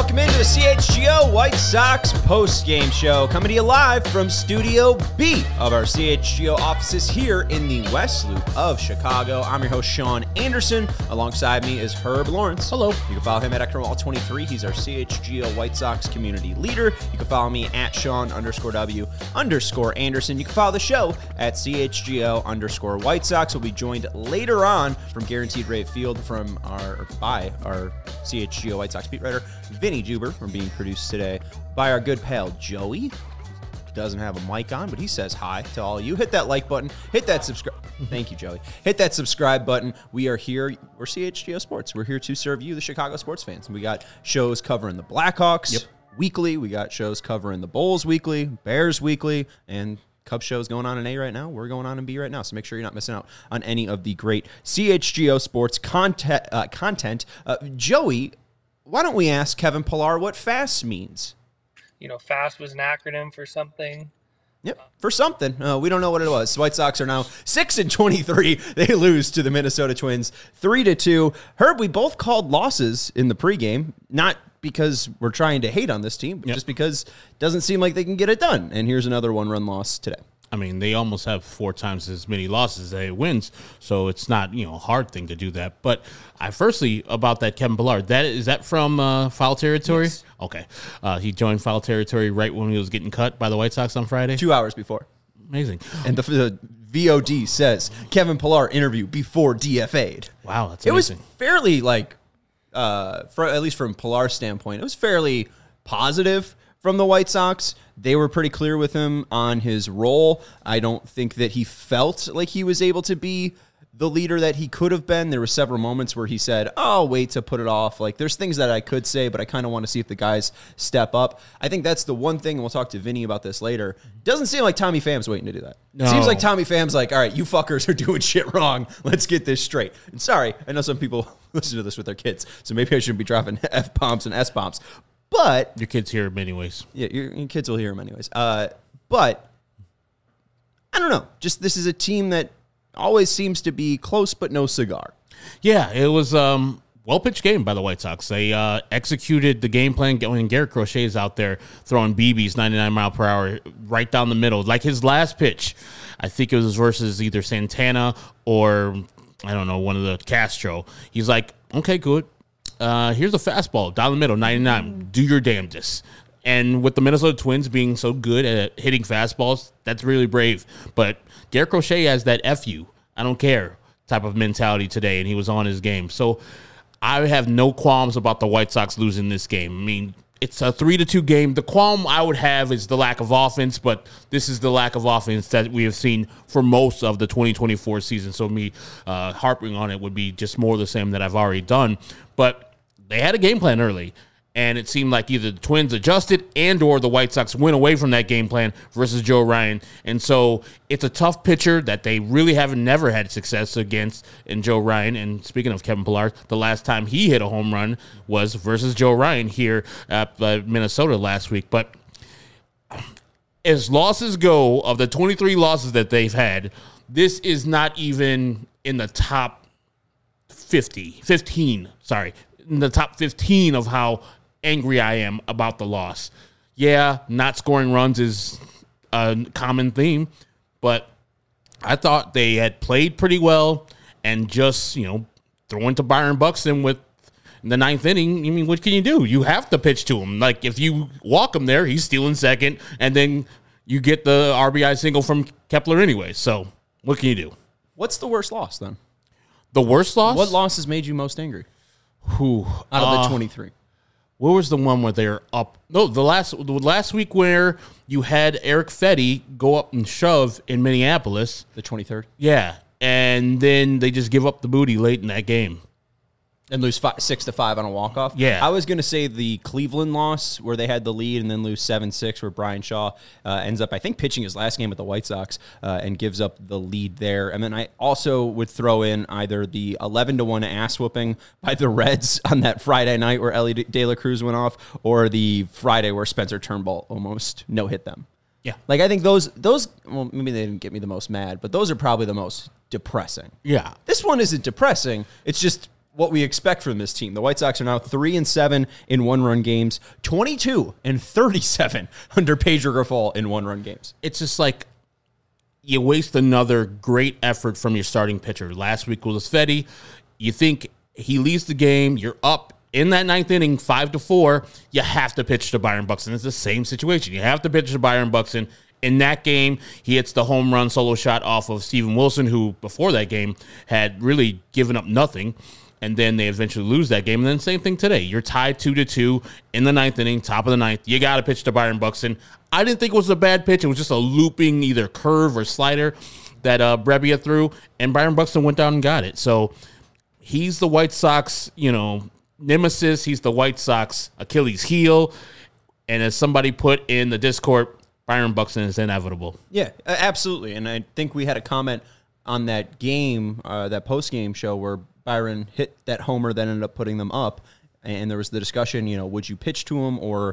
welcome into the CHGO White Sox post-game show, coming to you live from Studio B of our CHGO offices here in the West Loop of Chicago. I'm your host, Sean Anderson. Alongside me is Herb Lawrence. Hello. You can follow him at Ecknerwall23. He's our CHGO White Sox community leader. You can follow me at Sean_W_Anderson. You can follow the show at CHGO_White Sox. We'll be joined later on from Guaranteed Rate Field by our CHGO White Sox beat writer, Vinny Juber, from being produced today by our good pal, Joey. Doesn't have a mic on, but he says hi to all of you. Hit that like button. Hit that subscribe. Thank you, Joey. Hit that subscribe button. We are here. We're CHGO Sports. We're here to serve you, the Chicago sports fans. We got shows covering the Blackhawks weekly. We got shows covering the Bulls weekly, Bears weekly, and Cubs shows going on in A right now. We're going on in B right now, so make sure you're not missing out on any of the great CHGO Sports content. Joey, why don't we ask Kevin Pillar what FAST means? You know, FAST was an acronym for something. Yep, for something. We don't know what it was. White Sox are now 6-23. They lose to the Minnesota Twins 3-2. Herb, we both called losses in the pregame, not because we're trying to hate on this team, but just because it doesn't seem like they can get it done. And here's another one-run loss today. I mean, they almost have 4 times as many losses as they wins, so it's not, a hard thing to do that. But firstly, about that Kevin Pillar, is that from Foul Territory? Yes. Okay. He joined Foul Territory right when he was getting cut by the White Sox on Friday? 2 hours before. Amazing. And the VOD says, Kevin Pillar interview before DFA'd. Wow, that's It amazing. was fairly, at least from Pillar's standpoint, it was fairly positive from the White Sox. They were pretty clear with him on his role. I don't think that he felt like he was able to be the leader that he could have been. There were several moments where he said, "Oh, wait to put it off." Like, there's things that I could say, but I kind of want to see if the guys step up. I think that's the one thing, and we'll talk to Vinny about this later. Doesn't seem like Tommy Pham's waiting to do that. No. Seems like Tommy Pham's like, all right, you fuckers are doing shit wrong. Let's get this straight. And sorry, I know some people listen to this with their kids, so maybe I shouldn't be dropping F-bombs and S-bombs. But your kids hear them anyways. Yeah, your kids will hear them anyways. But I don't know. Just this is a team that always seems to be close but no cigar. Yeah, it was well-pitched game by the White Sox. They executed the game plan when Garrett Crochet is out there throwing BBs 99 mile per hour right down the middle. Like his last pitch, I think it was versus either Santana or, I don't know, one of the Castro. He's like, okay, good. Here's a fastball down the middle, 99. Do your damnedest. And with the Minnesota Twins being so good at hitting fastballs, that's really brave. But Garrett Crochet has that F you, I don't care type of mentality today, and he was on his game. So I have no qualms about the White Sox losing this game. I mean, it's a 3-2 game. The qualm I would have is the lack of offense, but this is the lack of offense that we have seen for most of the 2024 season. So me harping on it would be just more of the same that I've already done. But they had a game plan early, and it seemed like either the Twins adjusted and or the White Sox went away from that game plan versus Joe Ryan. And so it's a tough pitcher that they really never had success against in Joe Ryan. And speaking of Kevin Pillar, the last time he hit a home run was versus Joe Ryan here at Minnesota last week. But as losses go, of the 23 losses that they've had, this is not even in the top 15 of how angry I am about the loss. Yeah, not scoring runs is a common theme, but I thought they had played pretty well and just, throwing to Byron Buxton with the 9th inning. I mean, what can you do? You have to pitch to him. Like, if you walk him there, he's stealing second, and then you get the RBI single from Kepler anyway. So what can you do? What's the worst loss, then? The worst loss? What loss has made you most angry? Who out of the 23? What was the one where they're up? No, the last week where you had Eric Fetty go up and shove in Minneapolis. The 23rd? Yeah, and then they just give up the booty late in that game. And lose 6-5 on a walk-off? Yeah. I was going to say the Cleveland loss where they had the lead and then lose 7-6 where Brian Shaw ends up, I think, pitching his last game with the White Sox and gives up the lead there. And then I also would throw in either the 11-1 ass-whooping by the Reds on that Friday night where Ellie De La Cruz went off, or the Friday where Spencer Turnbull almost no-hit them. Yeah. Like, I think those, well, maybe they didn't get me the most mad, but those are probably the most depressing. Yeah. This one isn't depressing. It's just what we expect from this team. The White Sox are now 3-7 in one-run games, 22-37 under Pedro Grifol in one-run games. It's just like you waste another great effort from your starting pitcher. Last week was Fetty. You think he leads the game. You're up in that ninth inning, 5-4. You have to pitch to Byron Buxton. It's the same situation. You have to pitch to Byron Buxton. In that game, he hits the home run solo shot off of Steven Wilson, who before that game had really given up nothing. And then they eventually lose that game. And then same thing today. You're tied 2-2 in the ninth inning, top of the ninth. You got to pitch to Byron Buxton. I didn't think it was a bad pitch. It was just a looping either curve or slider that Brebbia threw. And Byron Buxton went down and got it. So he's the White Sox, nemesis. He's the White Sox Achilles heel. And as somebody put in the Discord, Byron Buxton is inevitable. Yeah, absolutely. And I think we had a comment on that game, that post-game show where Byron hit that homer that ended up putting them up. And there was the discussion, would you pitch to him or,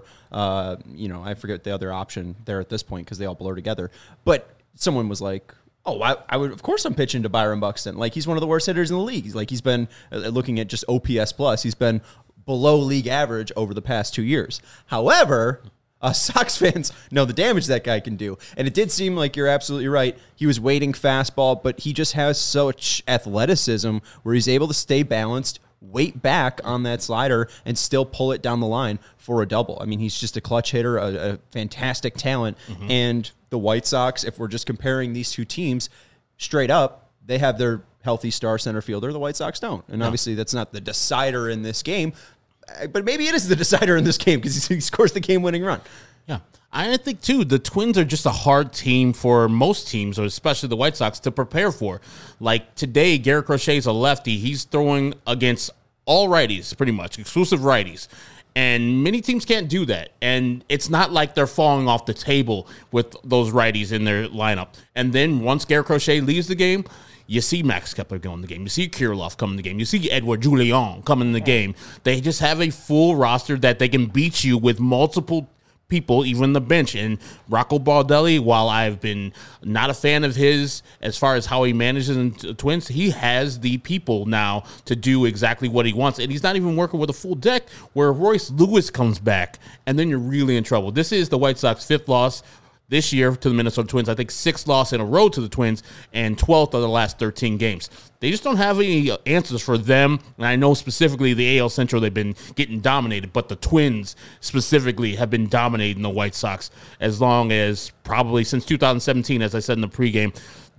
I forget the other option there at this point because they all blur together. But someone was like, oh, I would, of course I'm pitching to Byron Buxton. Like, he's one of the worst hitters in the league. He's been, looking at just OPS plus, he's been below league average over the past 2 years. However, Sox fans know the damage that guy can do. And it did seem like you're absolutely right. He was waiting fastball, but he just has such athleticism where he's able to stay balanced, wait back on that slider, and still pull it down the line for a double. I mean, he's just a clutch hitter, a fantastic talent. Mm-hmm. And the White Sox, if we're just comparing these two teams straight up, they have their healthy star center fielder. The White Sox don't. And obviously that's not the decider in this game. But maybe it is the decider in this game because he scores the game-winning run. Yeah. I think, too, the Twins are just a hard team for most teams, or especially the White Sox, to prepare for. Like today, Garrett Crochet is a lefty. He's throwing against all righties, pretty much, exclusive righties. And many teams can't do that. And it's not like they're falling off the table with those righties in their lineup. And then once Garrett Crochet leaves the game, you see Max Kepler go in the game. You see Kirilloff come in the game. You see Edouard Julien come in the game. They just have a full roster that they can beat you with multiple people, even the bench. And Rocco Baldelli, while I've been not a fan of his as far as how he manages in Twins, he has the people now to do exactly what he wants. And he's not even working with a full deck where Royce Lewis comes back, and then you're really in trouble. This is the White Sox 5th loss this year to the Minnesota Twins. I think 6th loss in a row to the Twins and 12th of the last 13 games. They just don't have any answers for them. And I know specifically the AL Central, they've been getting dominated, but the Twins specifically have been dominating the White Sox as long as probably since 2017, as I said in the pregame.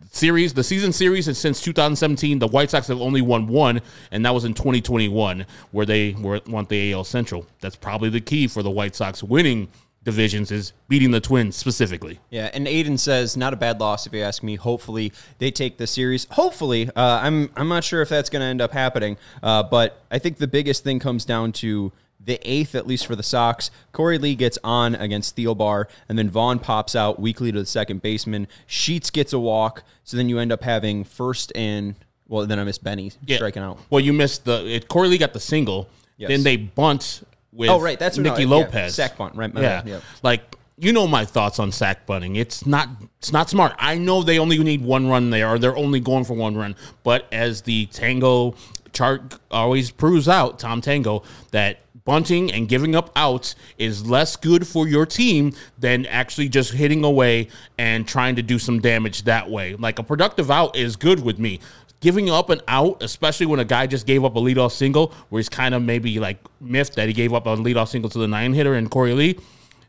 The season series, and since 2017, the White Sox have only won one, and that was in 2021, where they won the AL Central. That's probably the key for the White Sox winning divisions, is beating the Twins specifically. Yeah, and Aiden says not a bad loss if you ask me. Hopefully they take the series. Hopefully, I'm not sure if that's going to end up happening, but I think the biggest thing comes down to the 8th, at least for the Sox. Corey Lee gets on against Thielbar, and then Vaughn pops out weakly to the second baseman. Sheets gets a walk, so then you end up having first and, well, then I miss Benny striking out. Well, you missed Corey Lee got the single, then they bunt with that's Nicky Lopez. Yeah, sack bunt, right? Yeah. Like, my thoughts on sack bunting. It's not smart. I know they only need one run there, or they're only going for one run. But as the Tango chart always proves out, Tom Tango, that bunting and giving up outs is less good for your team than actually just hitting away and trying to do some damage that way. Like, a productive out is good with me. Giving up an out, especially when a guy just gave up a leadoff single, where he's kind of maybe like miffed that he gave up a leadoff single to the 9-hitter and Corey Lee,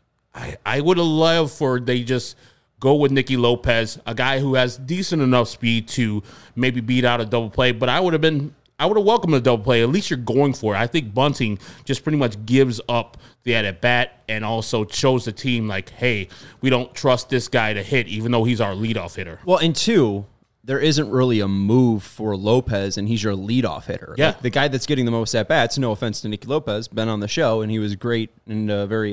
I would have loved for they just go with Nicky Lopez, a guy who has decent enough speed to maybe beat out a double play. But I would have welcomed a double play. At least you're going for it. I think bunting just pretty much gives up the at bat and also shows the team like, hey, we don't trust this guy to hit, even though he's our leadoff hitter. Well, and two, there isn't really a move for Lopez, and he's your leadoff hitter. Yeah. Like, the guy that's getting the most at-bats, no offense to Nicky Lopez, been on the show, and he was great and a very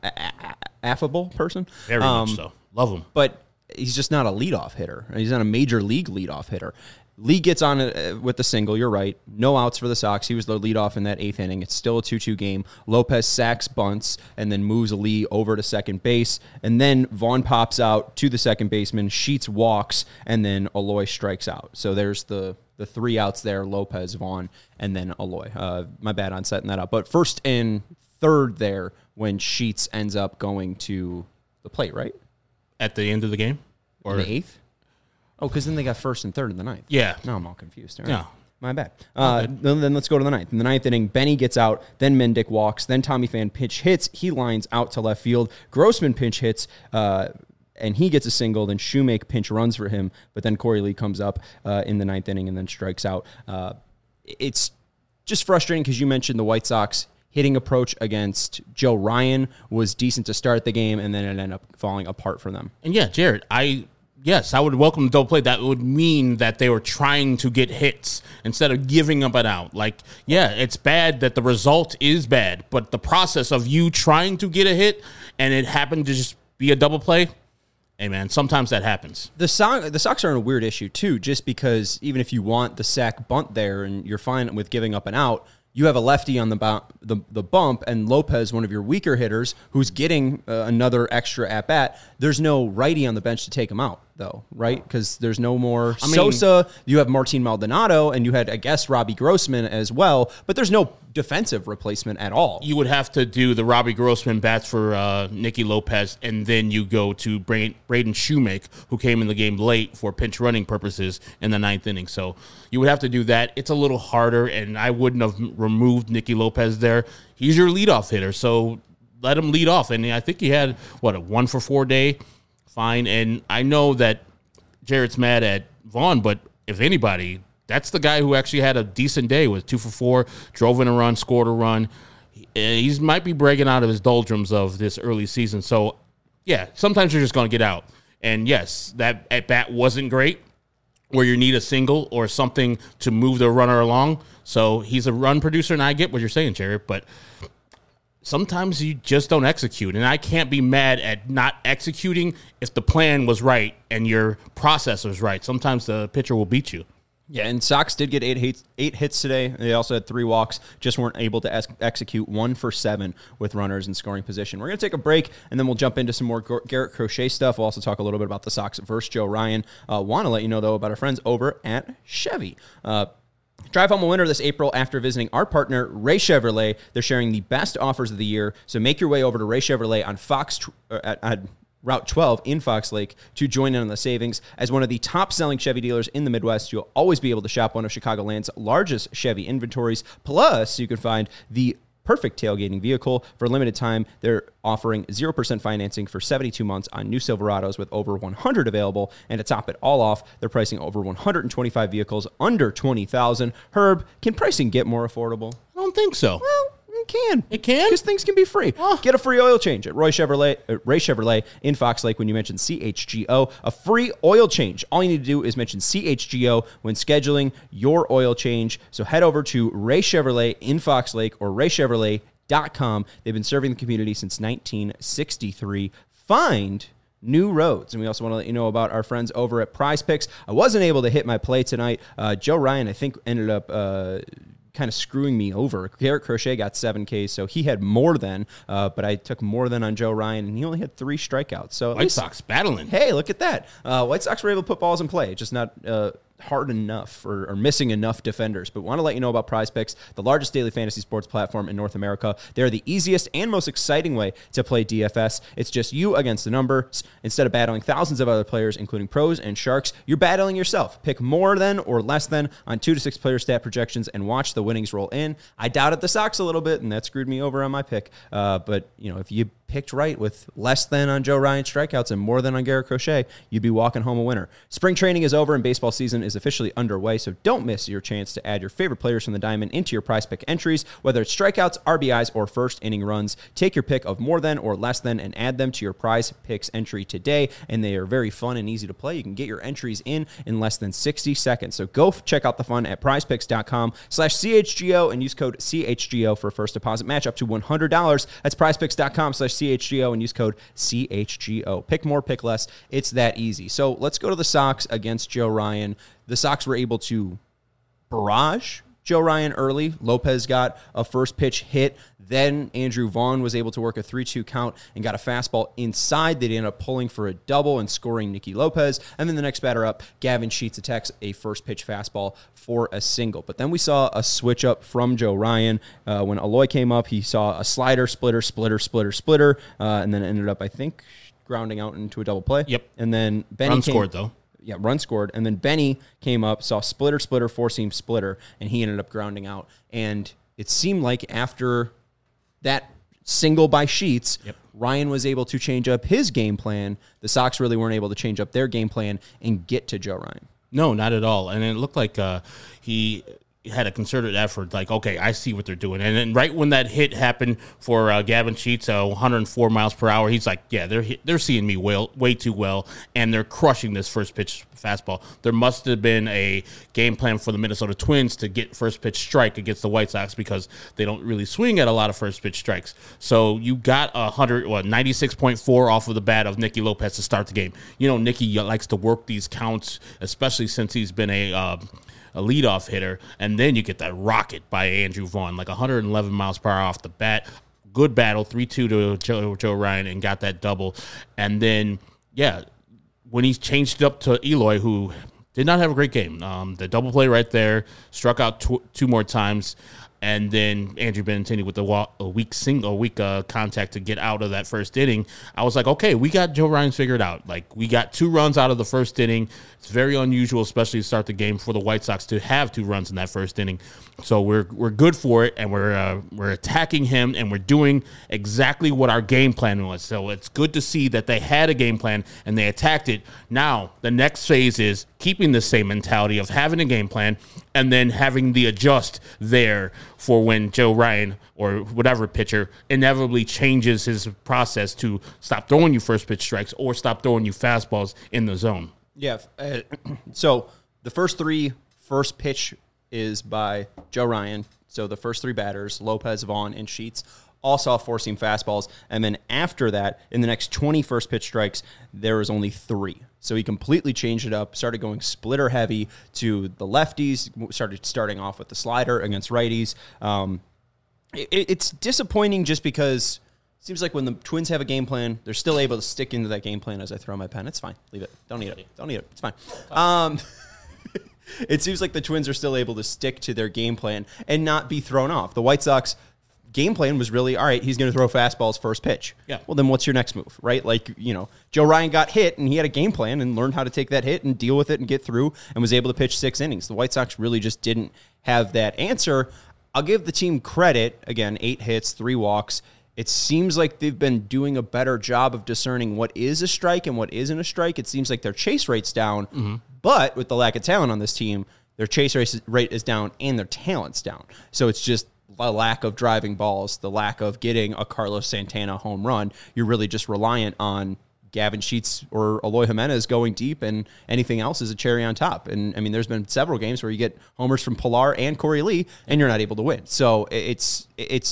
affable person. Very much so. Love him. But he's just not a leadoff hitter. He's not a major league leadoff hitter. Lee gets on with the single. You're right. No outs for the Sox. He was the leadoff in that 8th inning. It's still a 2-2 game. Lopez sacks, bunts, and then moves Lee over to second base. And then Vaughn pops out to the second baseman. Sheets walks, and then Eloy strikes out. So there's the 3 outs there, Lopez, Vaughn, and then Eloy. My bad on setting that up. But first and third there when Sheets ends up going to the plate, right? At the end of the game? Or in the 8th? Oh, because then they got first and third in the 9th. Yeah. No, I'm all confused. All right. No. My bad. Then let's go to the 9th. In the 9th inning, Benny gets out, then Mendick walks, then Tommy Pham pinch hits. He lines out to left field. Grossman pinch hits, and he gets a single. Then Shoemake pinch runs for him, but then Corey Lee comes up in the 9th inning and then strikes out. It's just frustrating because you mentioned the White Sox hitting approach against Joe Ryan was decent to start the game, and then it ended up falling apart for them. And yeah, Jared, Yes, I would welcome the double play. That would mean that they were trying to get hits instead of giving up an out. Like, yeah, it's bad that the result is bad, but the process of you trying to get a hit and it happened to just be a double play, hey, man, sometimes that happens. The Sox are in a weird issue, too, just because even if you want the sack bunt there and you're fine with giving up an out, you have a lefty on the bump, and Lopez, one of your weaker hitters, who's getting another extra at-bat. There's no righty on the bench to take him out, though, right? Because there's no more Sosa. You have Martin Maldonado, and you had, I guess, Robbie Grossman as well, but there's no defensive replacement at all. You would have to do the Robbie Grossman bats for Nicky Lopez, and then you go to Braden Shoemake, who came in the game late for pinch running purposes in the 9th inning. So you would have to do that. It's a little harder, and I wouldn't have removed Nicky Lopez there. He's your leadoff hitter, so let him lead off. And I think he had, a 1-for-4 day? Fine. And I know that Jarrett's mad at Vaughn, but if anybody, that's the guy who actually had a decent day with 2-for-4, drove in a run, scored a run. He might be breaking out of his doldrums of this early season. So, yeah, sometimes you're just going to get out. And, yes, that at-bat wasn't great where you need a single or something to move the runner along. So he's a run producer, and I get what you're saying, Jarrett, but sometimes you just don't execute. And I can't be mad at not executing if the plan was right and your process was right. Sometimes the pitcher will beat you. Yeah, and Sox did get 8 hits today. They also had 3 walks, just weren't able to execute 1 for 7 with runners in scoring position. We're going to take a break, and then we'll jump into some more Garrett Crochet stuff. We'll also talk a little bit about the Sox versus Joe Ryan. Want to let you know, though, about our friends over at Chevy. Drive home a winner this April after visiting our partner, Ray Chevrolet. They're sharing the best offers of the year, so make your way over to Ray Chevrolet on Route 12 in Fox Lake to join in on the savings. As one of the top-selling Chevy dealers in the Midwest, you'll always be able to shop one of Chicagoland's largest Chevy inventories. Plus, you can find the perfect tailgating vehicle. For a limited time, they're offering 0% financing for 72 months on new Silverados with over 100 available. And to top it all off, they're pricing over 125 vehicles under $20,000. Herb, can pricing get more affordable? I don't think so. Well, it can. It can? Because things can be free. Oh. Get a free oil change at Ray Chevrolet in Fox Lake when you mention CHGO. A free oil change. All you need to do is mention CHGO when scheduling your oil change. So head over to Ray Chevrolet in Fox Lake or raychevrolet.com. They've been serving the community since 1963. Find new roads. And we also want to let you know about our friends over at Prize Picks. I wasn't able to hit my play tonight. Joe Ryan, I think, ended up kind of screwing me over. Garrett Crochet got 7 Ks, so he had more than, but I took more than on Joe Ryan, and he only had 3 strikeouts. So White Sox battling. Hey, look at that. White Sox were able to put balls in play, just not hard enough or missing enough defenders. But want to let you know about Prize Picks, the largest daily fantasy sports platform in North America. They're the easiest and most exciting way to play DFS. It's just you against the numbers. Instead of battling thousands of other players, including pros and sharks, you're battling yourself. Pick more than or less than on 2 to 6 player stat projections and watch the winnings roll in. I doubted the Sox a little bit, and that screwed me over on my pick. But, if you picked right with less than on Joe Ryan strikeouts and more than on Garrett Crochet, you'd be walking home a winner. Spring training is over and baseball season is officially underway, so don't miss your chance to add your favorite players from the diamond into your Prize Pick entries, whether it's strikeouts, RBIs, or first inning runs. Take your pick of more than or less than and add them to your Prize Picks entry today, and they are very fun and easy to play. You can get your entries in less than 60 seconds. So go check out the fun at prizepicks.com/CHGO and use code CHGO for a first deposit match up to $100. That's prizepicks.com/CHGO and use code CHGO. Pick more, pick less. It's that easy. So let's go to the Sox against Joe Ryan. the Sox were able to barrage Joe Ryan early. Lopez got a first pitch hit. Then Andrew Vaughn was able to work a 3-2 count and got a fastball inside. They ended up pulling for a double and scoring Nicky Lopez. And then the next batter up, Gavin Sheets, attacks a first pitch fastball for a single. But then we saw a switch up from Joe Ryan. When Eloy came up, he saw a slider, splitter, and then ended up, I think, grounding out into a double play. Yep. And then Benny scored, though. Yeah, run scored. And then Benny came up, saw splitter, four-seam splitter, and he ended up grounding out. And it seemed like after that single by Sheets, Ryan was able to change up his game plan. The Sox really weren't able to change up their game plan and get to Joe Ryan. No, not at all. And it looked like he had a concerted effort, like, okay, I see what they're doing. And then right when that hit happened for Gavin Sheets, 104 miles per hour, he's like, yeah, they're seeing me way too well, and they're crushing this first pitch fastball. There must have been a game plan for the Minnesota Twins to get first pitch strike against the White Sox because they don't really swing at a lot of first pitch strikes. So you got 96.4 off of the bat of Nicky Lopez to start the game. You know, Nicky likes to work these counts, especially since he's been a leadoff hitter, and then you get that rocket by Andrew Vaughn, like 111 miles per hour off the bat. Good battle, 3-2 to Joe Ryan, and got that double. And then, when he changed it up to Eloy, who did not have a great game, the double play right there, struck out two more times, and then Andrew Benintendi with a weak contact to get out of that first inning. I was like, okay, we got Joe Ryan figured out. Like, we got 2 runs out of the first inning. It's very unusual, especially to start the game for the White Sox to have 2 runs in that first inning. So we're good for it, and we're attacking him, and we're doing exactly what our game plan was. So it's good to see that they had a game plan and they attacked it. Now the next phase is keeping the same mentality of having a game plan and then having the adjust there for when Joe Ryan or whatever pitcher inevitably changes his process to stop throwing you first pitch strikes or stop throwing you fastballs in the zone. Yeah. So the first pitch is by Joe Ryan. So the first 3 batters, Lopez, Vaughn, and Sheets, all saw four-seam fastballs. And then after that, in the next 20 first pitch strikes, there was only 3. So he completely changed it up, started going splitter heavy to the lefties, starting off with the slider against righties. It's disappointing just because it seems like when the Twins have a game plan, they're still able to stick into that game plan as I throw my pen. It's fine. Leave it. Don't need it. It's fine. It seems like the Twins are still able to stick to their game plan and not be thrown off. The White Sox game plan was really, all right, he's going to throw fastballs first pitch. Yeah. Well, then what's your next move, right? Like, you know, Joe Ryan got hit, and he had a game plan and learned how to take that hit and deal with it and get through and was able to pitch 6 innings. The White Sox really just didn't have that answer. I'll give the team credit. Again, 8 hits, 3 walks. It seems like they've been doing a better job of discerning what is a strike and what isn't a strike. It seems like their chase rate's down, but with the lack of talent on this team, their chase rate is down and their talent's down. So it's just a lack of driving balls, the lack of getting a Carlos Santana home run. You're really just reliant on Gavin Sheets or Eloy Jimenez going deep, and anything else is a cherry on top. And, I mean, there's been several games where you get homers from Pilar and Corey Lee, and you're not able to win. So it's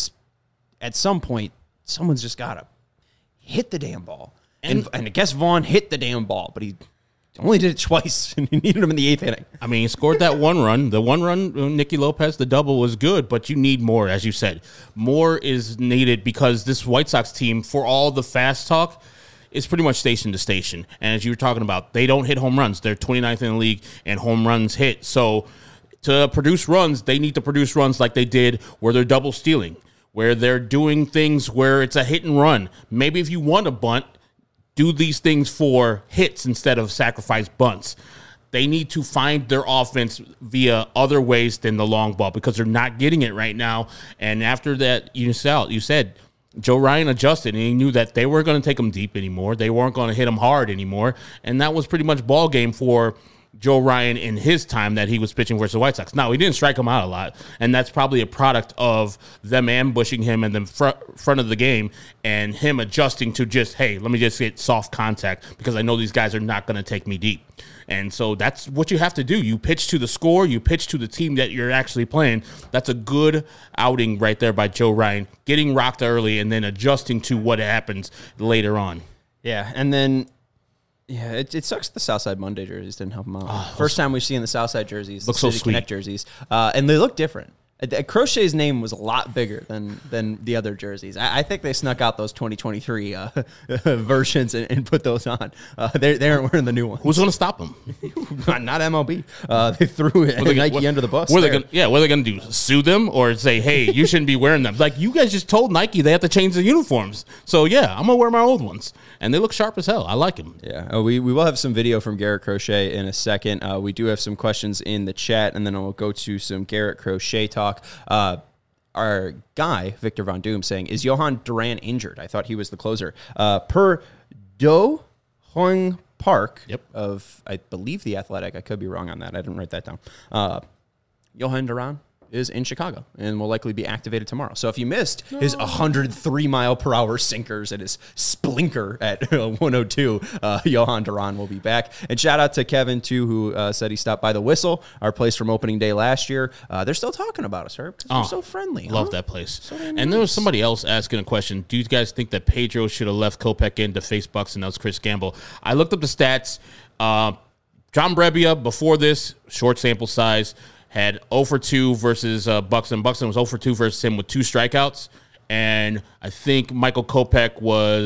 at some point, someone's just got to hit the damn ball. And I guess Vaughn hit the damn ball, but he only did it twice, and he needed him in the 8th inning. I mean, he scored that 1 run. The 1 run, Nicky Lopez, the double was good, but you need more, as you said. More is needed because this White Sox team, for all the fast talk, is pretty much station to station. And as you were talking about, they don't hit home runs. They're 29th in the league, and home runs hit. So to produce runs, they need to produce runs like they did where they're double stealing, where they're doing things where it's a hit and run. Maybe if you want a bunt, do these things for hits instead of sacrifice bunts. They need to find their offense via other ways than the long ball because they're not getting it right now. And after that, you said Joe Ryan adjusted, and he knew that they weren't going to take him deep anymore. They weren't going to hit him hard anymore. And that was pretty much ball game for Joe Ryan in his time that he was pitching versus the White Sox. Now, he didn't strike him out a lot, and that's probably a product of them ambushing him in the front of the game and him adjusting to just, hey, let me just get soft contact because I know these guys are not going to take me deep. And so that's what you have to do. You pitch to the score. You pitch to the team that you're actually playing. That's a good outing right there by Joe Ryan, getting rocked early and then adjusting to what happens later on. Yeah, and then Yeah, it sucks the Southside Monday jerseys didn't help him out. First time we've seen the Southside jerseys, Looks the so City sweet. Connect jerseys, and they look different. Crochet's name was a lot bigger than the other jerseys. I think they snuck out those 2023 versions and put those on. They aren't wearing the new ones. Who's going to stop them? Not MLB. They threw Nike under the bus. What are they going to do? Sue them or say, hey, you shouldn't be wearing them? Like, you guys just told Nike they have to change the uniforms. So, yeah, I'm going to wear my old ones. And they look sharp as hell. I like them. Yeah, we will have some video from Garrett Crochet in a second. We do have some questions in the chat, and then we'll go to some Garrett Crochet talk. Our guy, Victor Von Doom, saying, is Johan Duran injured? I thought he was the closer. Per Do Hong Park of, I believe, The Athletic. I could be wrong on that. I didn't write that down. Johan Duran is in Chicago and will likely be activated tomorrow. So if you missed his 103-mile-per-hour sinkers and his splinker at 102, Johan Duran will be back. And shout out to Kevin, too, who said he stopped by the Whistle, our place from opening day last year. They're still talking about us, Herb, because we're so friendly. Love that place. So and there was somebody else asking a question. Do you guys think that Pedro should have left Kopech in to face Buxton? That was Chris Gamble. I looked up the stats. John Brebbia, before this, short sample size, had 0 for 2 versus Buxton. Buxton was 0 for 2 versus him with 2 strikeouts. And I think Michael Kopech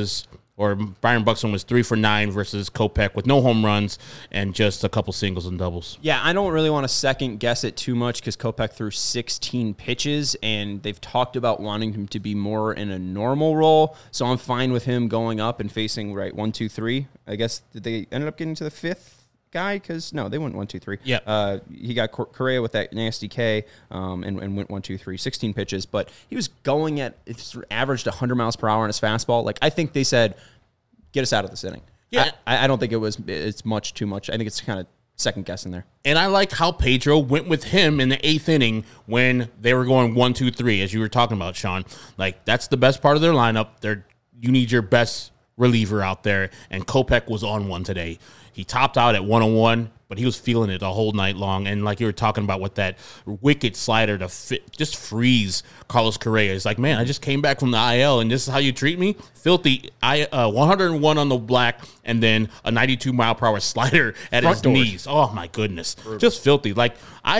Byron Buxton was 3 for 9 versus Kopech with no home runs and just a couple singles and doubles. Yeah, I don't really want to second guess it too much because Kopech threw 16 pitches, and they've talked about wanting him to be more in a normal role. So I'm fine with him going up and facing 1, 2, 3. I guess did they ended up getting to the 5th guy? Because no, they went 1, 2, 3. Yeah. He got Correa with that nasty K and went 1, 2, 3, 16 pitches, but he was going at averaged 100 miles per hour on his fastball. Like, I think they said, get us out of this inning. Yeah. I don't think it's much too much. I think it's kind of second guessing there. And I like how Pedro went with him in the 8th inning when they were going 1, 2, 3, as you were talking about, Sean. Like, that's the best part of their lineup. You need your best reliever out there, and Kopech was on one today. He topped out at 101, but he was feeling it the whole night long. And like you were talking about with that wicked slider to just freeze Carlos Correa. It's like, man, I just came back from the IL, and this is how you treat me? Filthy. 101 on the black, and then a 92-mile-per-hour slider at his knees. Oh, my goodness. Just filthy. Like,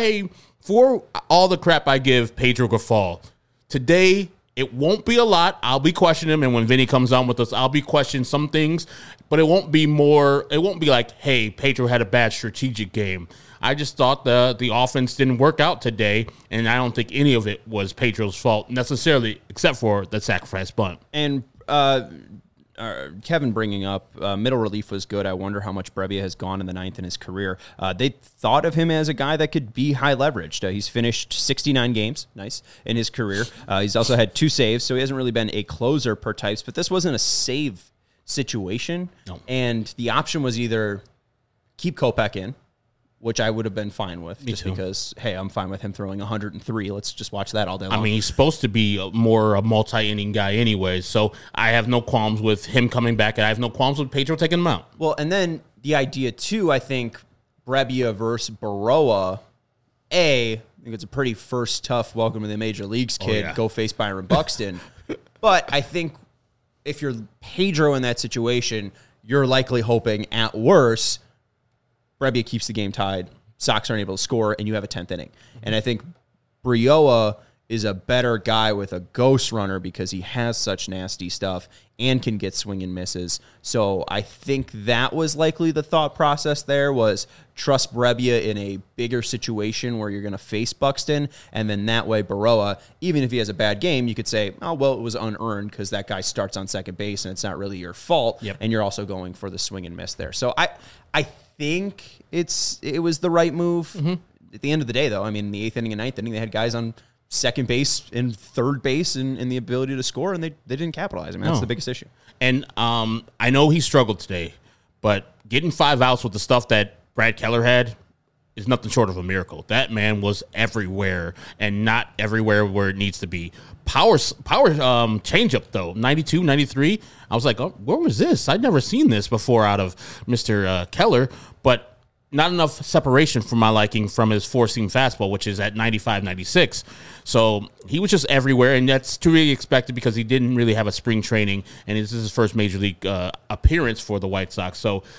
for all the crap I give Pedro Grifol, today it won't be a lot. I'll be questioning him, and when Vinny comes on with us, I'll be questioning some things, but it won't be like, hey, Pedro had a bad strategic game. I just thought the offense didn't work out today, and I don't think any of it was Pedro's fault necessarily, except for the sacrifice bunt. And Kevin bringing up middle relief was good. I wonder how much Brebbia has gone in the 9th in his career. They thought of him as a guy that could be high leveraged. He's finished 69 games, nice, in his career. He's also had 2 saves, so he hasn't really been a closer per types, but this wasn't a save situation. No. And the option was either keep Kopech in, which I would have been fine with, because, hey, I'm fine with him throwing 103. Let's just watch that all day long. I mean, he's supposed to be a multi-inning guy anyway, so I have no qualms with him coming back, and I have no qualms with Pedro taking him out. Well, and then the idea, too, I think, Brebbia versus Baroa, I think it's a pretty first tough welcome to the major leagues kid, go face Byron Buxton. But I think if you're Pedro in that situation, you're likely hoping, at worst, Brebbia keeps the game tied, Sox aren't able to score, and you have a 10th inning. And I think Brioa is a better guy with a ghost runner because he has such nasty stuff and can get swing and misses. So I think that was likely the thought process there, was trust Brebbia in a bigger situation where you're going to face Buxton, and then that way Baroa, even if he has a bad game, you could say, oh, well, it was unearned because that guy starts on second base and it's not really your fault, and you're also going for the swing and miss there. So I think it was the right move. At the end of the day, though, I mean, the 8th inning and 9th inning, they had guys on second base and third base and the ability to score, and they didn't capitalize. I mean, that's the biggest issue. And I know he struggled today, but getting 5 outs with the stuff that Brad Keller had is nothing short of a miracle. That man was everywhere, and not everywhere where it needs to be. Power changeup, though, 92, 93. I was like, oh, where was this? I'd never seen this before out of Mr. Keller, but not enough separation for my liking from his four-seam fastball, which is at 95, 96. So he was just everywhere, and that's to be expected because he didn't really have a spring training, and this is his first major league appearance for the White Sox. So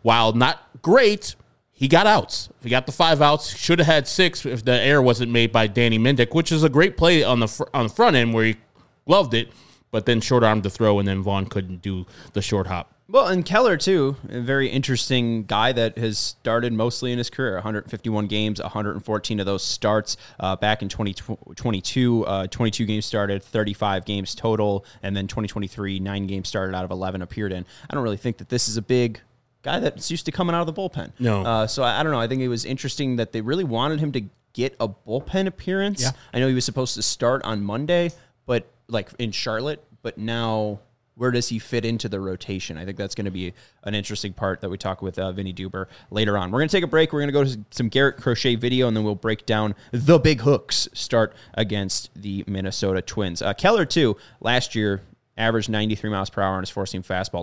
while not great, he got outs. He got the 5 outs. Should have had 6 if the error wasn't made by Danny Mendick, which is a great play on the front end where he gloved it, but then short-armed the throw, and then Vaughn couldn't do the short hop. Well, and Keller, too, a very interesting guy that has started mostly in his career. 151 games, 114 of those starts back in 2022. 22 games started, 35 games total, and then 2023, 9 games started out of 11 appeared in. I don't really think that this is a big guy that's used to coming out of the bullpen. No. So I don't know. I think it was interesting that they really wanted him to get a bullpen appearance. Yeah. I know he was supposed to start on Monday, but like in Charlotte, but now where does he fit into the rotation? I think that's going to be an interesting part that we talk with Vinny Duber later on. We're going to take a break. We're going to go to some Garrett Crochet video, and then we'll break down the Big Hooks start against the Minnesota Twins. Keller, too, last year averaged 93 miles per hour on his four-seam fastball,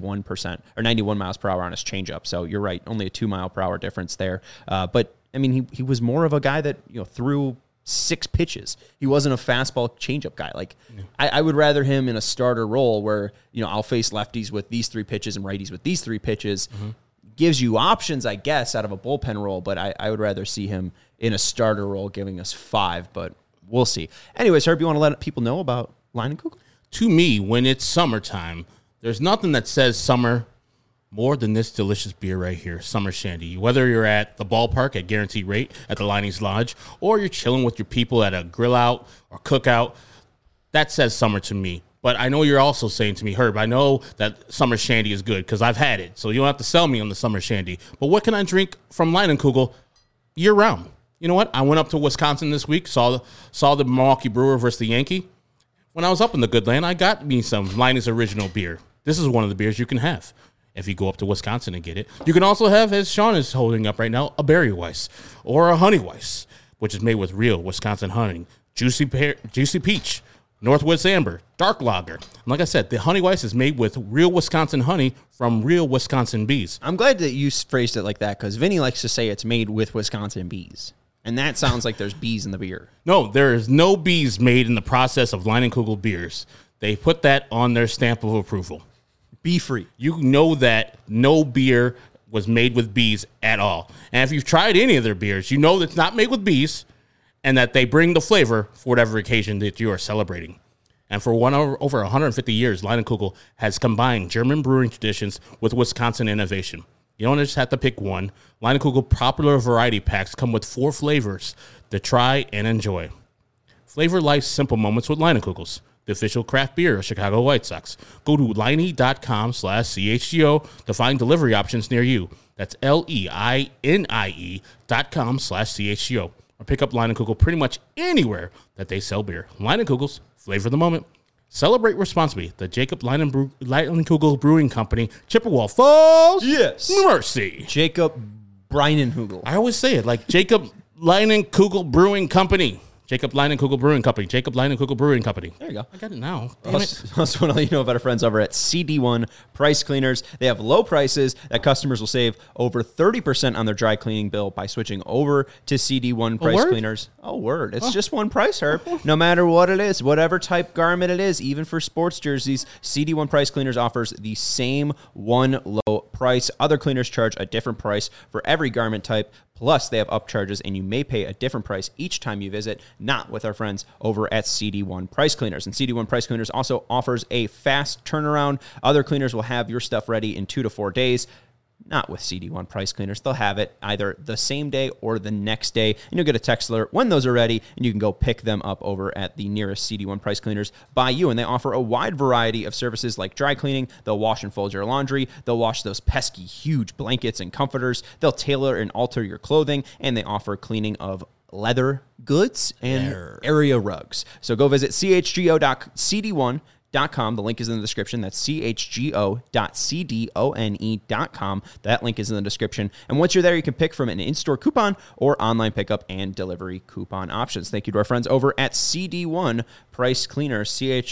91 miles per hour on his changeup. So you're right, only a 2 mile per hour difference there. But I mean, he was more of a guy that threw 6 pitches. He wasn't a fastball changeup guy. Like I would rather him in a starter role where I'll face lefties with these 3 pitches and righties with these 3 pitches. Gives you options, I guess, out of a bullpen role. But I would rather see him in a starter role, giving us 5. But we'll see. Anyways, Herb, you want to let people know about Leinenkugel? To me, when it's summertime, there's nothing that says summer more than this delicious beer right here, Summer Shandy. Whether you're at the ballpark at Guaranteed Rate at the Liney's Lodge, or you're chilling with your people at a grill out or cookout, that says summer to me. But I know you're also saying to me, Herb, I know that Summer Shandy is good because I've had it, so you don't have to sell me on the Summer Shandy. But what can I drink from Leinenkugel year-round? You know what? I went up to Wisconsin this week, saw the Milwaukee Brewer versus the Yankee. When I was up in the good land, I got me some Liney's Original beer. This is one of the beers you can have if you go up to Wisconsin and get it. You can also have, as Sean is holding up right now, a Berry Weiss or a Honey Weiss, which is made with real Wisconsin honey, juicy peach, Northwoods Amber, dark lager. And like I said, the Honey Weiss is made with real Wisconsin honey from real Wisconsin bees. I'm glad that you phrased it like that because Vinny likes to say it's made with Wisconsin bees. And that sounds like there's bees in the beer. No, there is no bees made in the process of Leinenkugel beers. They put that on their stamp of approval. Bee free. You know that no beer was made with bees at all. And if you've tried any of their beers, you know that it's not made with bees and that they bring the flavor for whatever occasion that you are celebrating. And for over 150 years, Leinenkugel has combined German brewing traditions with Wisconsin innovation. You don't just have to pick one. Leinenkugel popular variety packs come with 4 flavors to try and enjoy. Flavor life's simple moments with Leinenkugels, the official craft beer of Chicago White Sox. Go to Liney.com/CHGO to find delivery options near you. That's LEINIE.com/CHGO. Or pick up Leinenkugel pretty much anywhere that they sell beer. Leinenkugels, flavor the moment. Celebrate responsibly. The Jacob Leinenkugel Brewing Company, Chippewa Falls, Yes. Mercy. Jacob Breinenhugel. I always say it like Jacob Leinenkugel Brewing Company. Jacob Leinenkugel Brewing Company. Jacob Leinenkugel Brewing Company. There you go. I got it now. Damn it. Also want to let you know about our friends over at CD1 Price Cleaners. They have low prices that customers will save over 30% on their dry cleaning bill by switching over to CD1 Price Cleaners. Oh, word. It's just one price, Herb. No matter what it is, whatever type garment it is, even for sports jerseys, CD1 Price Cleaners offers the same one low price. Other cleaners charge a different price for every garment type. Plus, they have upcharges, and you may pay a different price each time you visit, not with our friends over at CD1 Price Cleaners. And CD1 Price Cleaners also offers a fast turnaround. Other cleaners will have your stuff ready in 2 to 4 days. Not with CD1 Price Cleaners. They'll have it either the same day or the next day, and you'll get a text alert when those are ready, and you can go pick them up over at the nearest CD1 Price Cleaners by you. And they offer a wide variety of services like dry cleaning. They'll wash and fold your laundry. They'll wash those pesky, huge blankets and comforters. They'll tailor and alter your clothing, and they offer cleaning of leather goods and area rugs. So go visit chgo.cd1.com. The link is in the description. That's chgo.cdone.com. That link is in the description. And once you're there, you can pick from an in-store coupon or online pickup and delivery coupon options. Thank you to our friends over at CD1 Price Cleaners,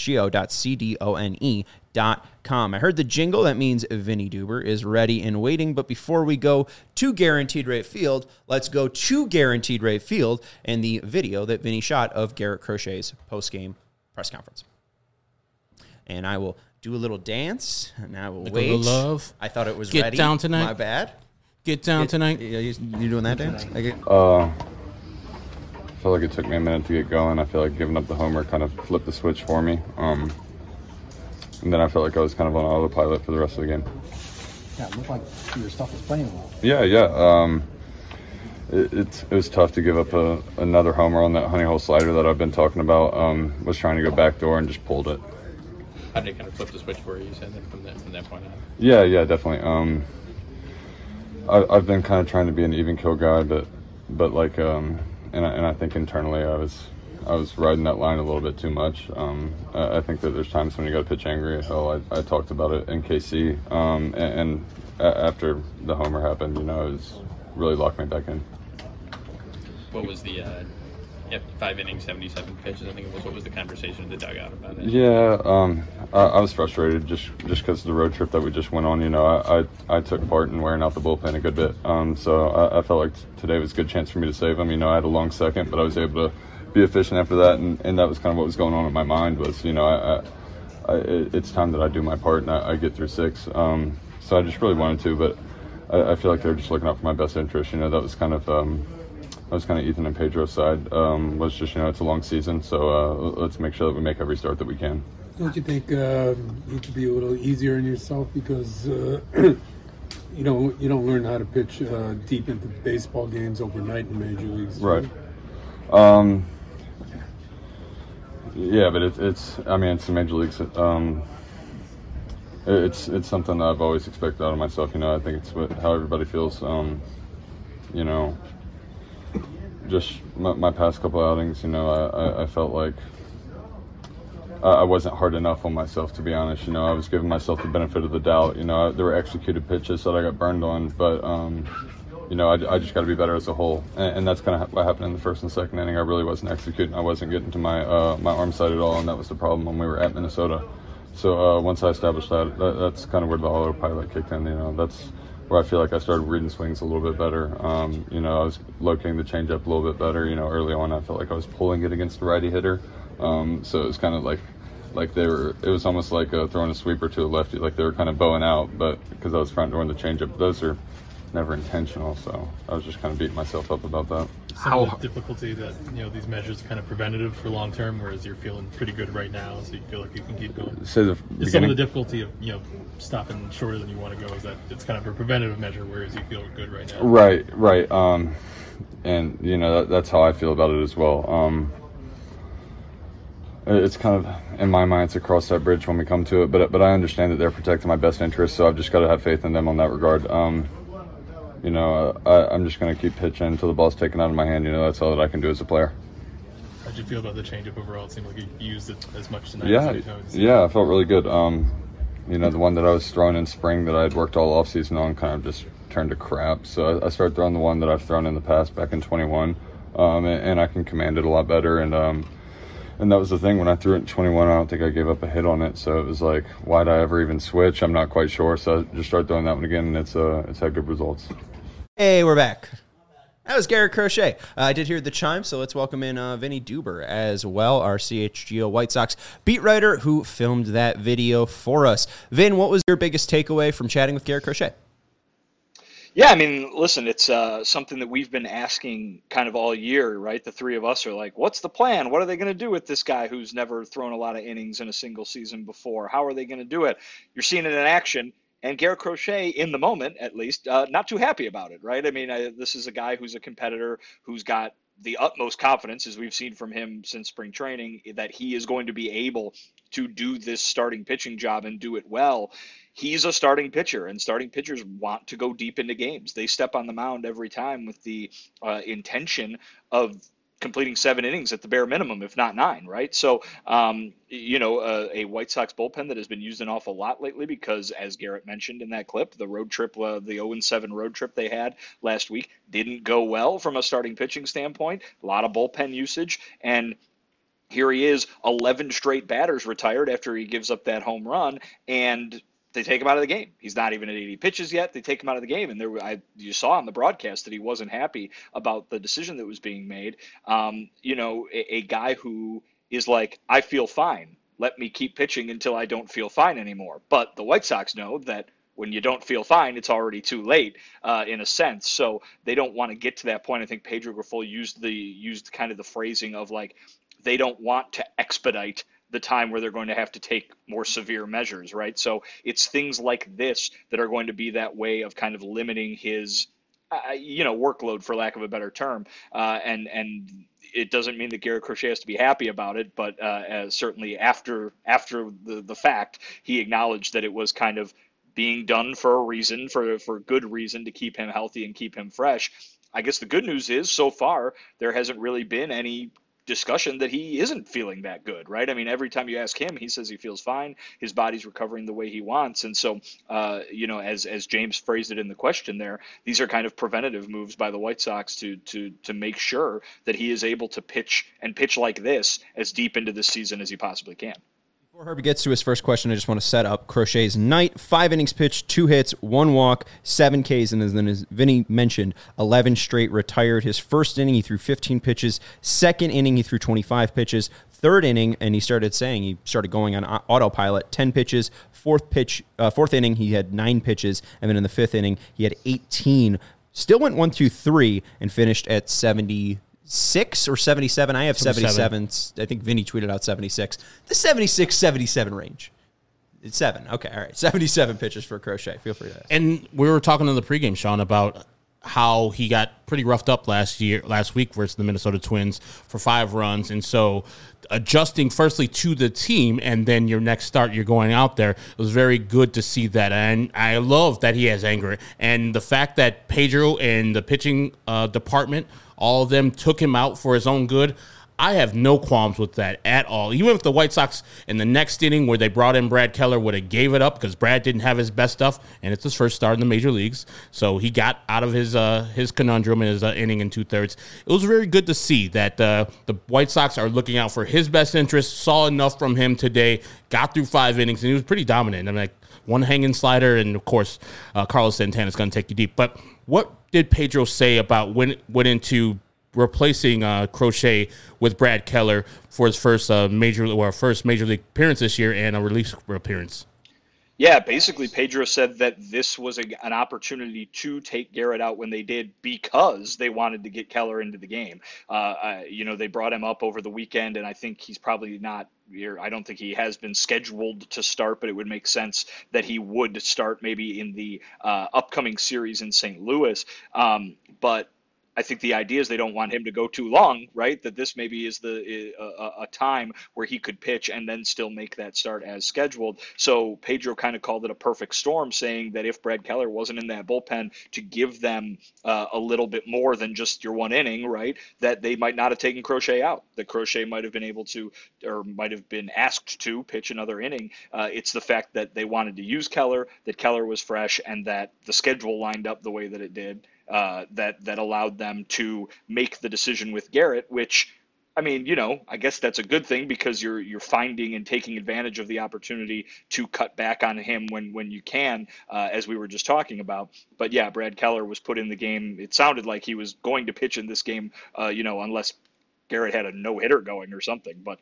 chgo.cdone.com. I heard the jingle. That means Vinny Duber is ready and waiting. But before we go to Guaranteed Rate Field, let's go to Guaranteed Rate Field and the video that Vinny shot of Garrett Crochet's post-game press conference. And I will do a little dance. Now we'll Like a wait. little love. I thought it was Get ready. down tonight. My bad. Get down tonight. You doing that dance? I feel like it took me a minute to get going. I feel like giving up the homer kind of flipped the switch for me. And then I felt like I was kind of on autopilot for the rest of the game. Yeah, it looked like your stuff was playing well. Yeah. It was tough to give up another homer on that honey hole slider that I've been talking about. Was trying to go backdoor and just pulled it. How did it kind of flip the switch for you? You said that from that point on. Yeah, definitely. I've been kind of trying to be an even kill guy, but like and I think internally I was riding that line a little bit too much. I think that there's times when you got to pitch angry. Hell, I talked about it in KC, and after the homer happened, it was really locked me back in. What was the 5 innings, 77 pitches? I think it was. What was the conversation in the dugout about it? Yeah, I was frustrated just because of the road trip that we just went on. I took part in wearing out the bullpen a good bit. So I felt like today was a good chance for me to save them. I had a long second, but I was able to be efficient after that, and that was kind of what was going on in my mind was, it's time that I do my part and I get through 6. So I just really wanted to, but I feel like they're just looking out for my best interest. That was kind of Ethan and Pedro's side. Was just it's a long season, so let's make sure that we make every start that we can. Don't you think you need to be a little easier on yourself because you don't learn how to pitch deep into baseball games overnight in major leagues? Right. Yeah, but it's the major leagues. It's something that I've always expected out of myself. I think it's how everybody feels. Just my past couple outings, I felt like I wasn't hard enough on myself, to be honest. I was giving myself the benefit of the doubt. There were executed pitches that I got burned on, but I just got to be better as a whole, and that's kind of what happened in the first and second inning. I really wasn't executing. I wasn't getting to my arm side at all, and that was the problem when we were at Minnesota. So once I established that's kind of where the autopilot kicked in. That's where I feel like I started reading swings a little bit better. I was locating the changeup a little bit better. Early on I felt like I was pulling it against the righty hitter. So it was kind of like it was almost like throwing a sweeper to a lefty, like they were kind of bowing out, but because I was front door in the changeup, those are never intentional. So I was just kind of beating myself up about that. Some of the difficulty that these measures are kind of preventative for long term, whereas you're feeling pretty good right now, so you feel like you can keep going. Say some of the difficulty of stopping shorter than you want to go is that it's kind of a preventative measure, whereas you feel good right now. Right. And that's how I feel about it as well. It's kind of, in my mind, it's a cross that bridge when we come to it, but I understand that they're protecting my best interests, so I've just got to have faith in them on that regard. I'm just going to keep pitching until the ball's taken out of my hand. That's all that I can do as a player. How'd you feel about the changeup overall? It seemed like you used it as much tonight. Yeah, I felt really good. The one that I was throwing in spring that I had worked all offseason on kind of just turned to crap. So I started throwing the one that I've thrown in the past back in 21, and I can command it a lot better. And that was the thing, when I threw it in 21, I don't think I gave up a hit on it. So it was like, why'd I ever even switch? I'm not quite sure. So I just started throwing that one again, and it's had good results. Hey, we're back. That was Garrett Crochet. I did hear the chime, so let's welcome in Vinny Duber as well, our CHGO White Sox beat writer who filmed that video for us. Vin, what was your biggest takeaway from chatting with Garrett Crochet? Yeah, listen, it's something that we've been asking kind of all year, right? The three of us are like, what's the plan? What are they going to do with this guy who's never thrown a lot of innings in a single season before? How are they going to do it? You're seeing it in action. And Garrett Crochet, in the moment, at least, not too happy about it, right? This is a guy who's a competitor who's got the utmost confidence, as we've seen from him since spring training, that he is going to be able to do this starting pitching job and do it well. He's a starting pitcher, and starting pitchers want to go deep into games. They step on the mound every time with the intention of completing 7 innings at the bare minimum, if not 9, right? So, a White Sox bullpen that has been used an awful lot lately because, as Garrett mentioned in that clip, the road trip, the 0-7 road trip they had last week didn't go well from a starting pitching standpoint. A lot of bullpen usage, and here he is, 11 straight batters retired after he gives up that home run, and they take him out of the game. He's not even at 80 pitches yet. They take him out of the game. And you saw on the broadcast that he wasn't happy about the decision that was being made. A guy who is like, I feel fine. let me keep pitching until I don't feel fine anymore. But the White Sox know that when you don't feel fine, it's already too late, in a sense. So they don't want to get to that point. I think Pedro Grifol used kind of the phrasing of like, they don't want to expedite the time where they're going to have to take more severe measures, right? So it's things like this that are going to be that way of kind of limiting his, workload, for lack of a better term. And it doesn't mean that Garrett Crochet has to be happy about it, but certainly after the fact, he acknowledged that it was kind of being done for a reason, for good reason, to keep him healthy and keep him fresh. I guess the good news is, so far, there hasn't really been any discussion that he isn't feeling that good, right? I mean, every time you ask him, he says he feels fine. His body's recovering the way he wants. And so, as James phrased it in the question there, these are kind of preventative moves by the White Sox to make sure that he is able to pitch like this as deep into this season as he possibly can. Before Herbie gets to his first question, I just want to set up Crochet's night. 5 innings pitched, 2 hits, 1 walk, 7 Ks, and then, as Vinny mentioned, 11 straight retired. His first inning, he threw 15 pitches. Second inning, he threw 25 pitches. Third inning, and he started going on autopilot, 10 pitches. Fourth inning, he had 9 pitches, and then in the 5th inning, he had 18. Still went 1-2-3 and finished at 76 or 77. I have 77. I think Vinny tweeted out 76. The 76, 77 range. It's 7. Okay, all right. 77 pitches for Crochet. Feel free to ask. And we were talking in the pregame, Sean, about how he got pretty roughed up last week versus the Minnesota Twins for 5 runs. And so adjusting firstly to the team, and then your next start, you're going out there. It was very good to see that. And I love that he has anger. And the fact that Pedro and the pitching department, all of them took him out for his own good, I have no qualms with that at all. Even if the White Sox in the next inning where they brought in Brad Keller would have gave it up because Brad didn't have his best stuff, and it's his first start in the major leagues, so he got out of his conundrum in his inning and 2/3. It was very good to see that the White Sox are looking out for his best interest, saw enough from him today, got through 5 innings, and he was pretty dominant. I mean, like, one hanging slider, and of course, Carlos Santana is going to take you deep. But what did Pedro say about when it went into replacing Crochet with Brad Keller for his first major league appearance this year and a relief appearance? Yeah, basically Pedro said that this was an opportunity to take Garrett out when they did because they wanted to get Keller into the game. They brought him up over the weekend, and I think he's probably not here. I don't think he has been scheduled to start, but it would make sense that he would start maybe in the upcoming series in St. Louis. But I think the idea is they don't want him to go too long, right? That this maybe is a time where he could pitch and then still make that start as scheduled. So Pedro kind of called it a perfect storm, saying that if Brad Keller wasn't in that bullpen to give them a little bit more than just your 1 inning, right, that they might not have taken Crochet out, that Crochet might have been able to, or might have been asked to pitch another inning. It's the fact that they wanted to use Keller, that Keller was fresh, and that the schedule lined up the way that it did. That allowed them to make the decision with Garrett, which, I mean, I guess that's a good thing because you're finding and taking advantage of the opportunity to cut back on him when you can, as we were just talking about. But yeah, Brad Keller was put in the game. It sounded like he was going to pitch in this game, unless Garrett had a no-hitter going or something. But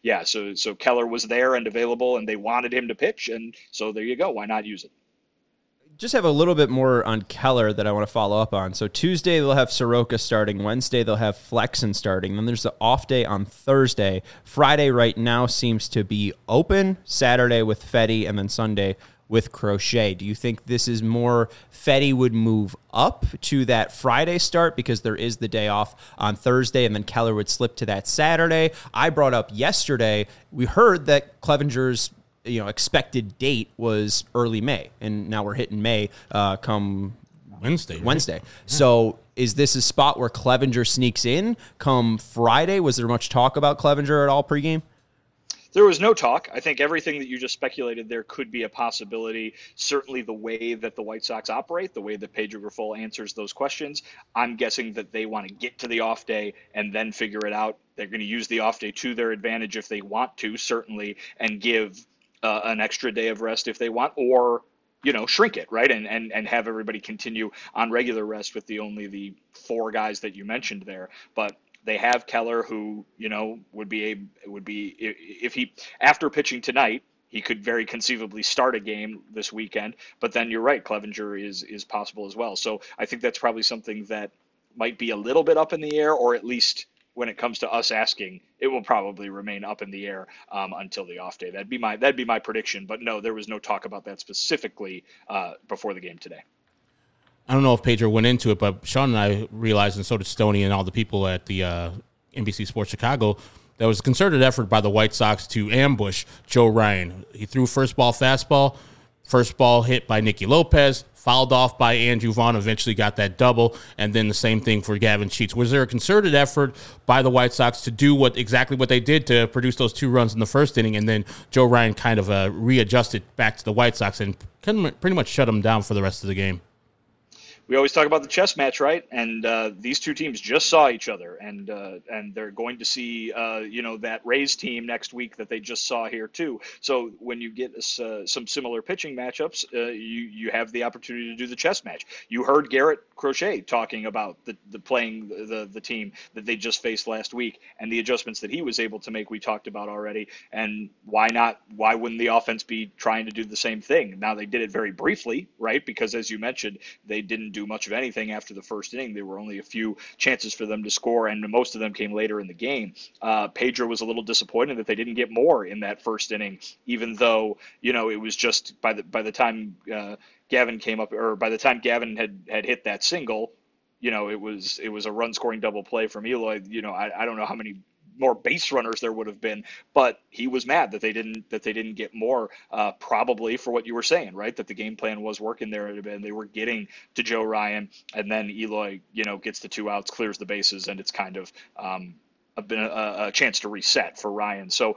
so Keller was there and available, and they wanted him to pitch, and so there you go. Why not use it? Just have a little bit more on Keller that I want to follow up on. So Tuesday they'll have Soroka starting. Wednesday they'll have Flexen starting. Then there's the off day on Thursday. Friday right now seems to be open. Saturday with Fedde, and then Sunday with Crochet. Do you think this is more Fedde would move up to that Friday start because there is the day off on Thursday, and then Keller would slip to that Saturday? I brought up yesterday, we heard that Clevenger's expected date was early May, and now we're hitting May come Wednesday. Yeah. So is this a spot where Clevenger sneaks in come Friday? Was there much talk about Clevenger at all pregame? There was no talk. I think everything that you just speculated there could be a possibility. Certainly the way that the White Sox operate, the way that Pedro Grifol answers those questions, I'm guessing that they want to get to the off day and then figure it out. They're going to use the off day to their advantage if they want to, certainly, and give an extra day of rest if they want, or shrink it, right, and have everybody continue on regular rest with only the 4 guys that you mentioned there. But They have Keller, who, you know, would be if he, after pitching tonight, he could very conceivably start a game this weekend. But then you're right, Clevenger is possible as well. So I think that's probably something that might be a little bit up in the air, or at least when it comes to us asking, it will probably remain up in the air until the off day. That'd be my prediction. But no, there was no talk about that specifically before the game today. I don't know if Pedro went into it, but Sean and I realized, and so did Stoney and all the people at the NBC Sports Chicago, there was a concerted effort by the White Sox to ambush Joe Ryan. He threw first ball fastball, first ball hit by Nicky Lopez, fouled off by Andrew Vaughn, eventually got that double, and then the same thing for Gavin Sheets. Was there a concerted effort by the White Sox to do exactly what they did to produce those 2 runs in the first inning, and then Joe Ryan kind of readjusted back to the White Sox and pretty much shut them down for the rest of the game? We always talk about the chess match, right? And these two teams just saw each other, and they're going to see, that Rays team next week that they just saw here too. So when you get some similar pitching matchups, you have the opportunity to do the chess match. You heard Garrett Crochet talking about the team that they just faced last week and the adjustments that he was able to make. We talked about already, and why not? Why wouldn't the offense be trying to do the same thing? Now they did it very briefly, right? Because as you mentioned, they didn't do much of anything after the first inning. There were only a few chances for them to score, and most of them came later in the game. Pedro was a little disappointed that they didn't get more in that first inning, even though, it was just by the time Gavin came up, or by the time Gavin had hit that single, it was a run scoring double play from Eloy. I don't know how many more base runners there would have been, but he was mad that they didn't get more, probably for what you were saying, right? That the game plan was working there, and they were getting to Joe Ryan, and then Eloy, gets the 2 outs, clears the bases, and it's kind of a chance to reset for Ryan. So,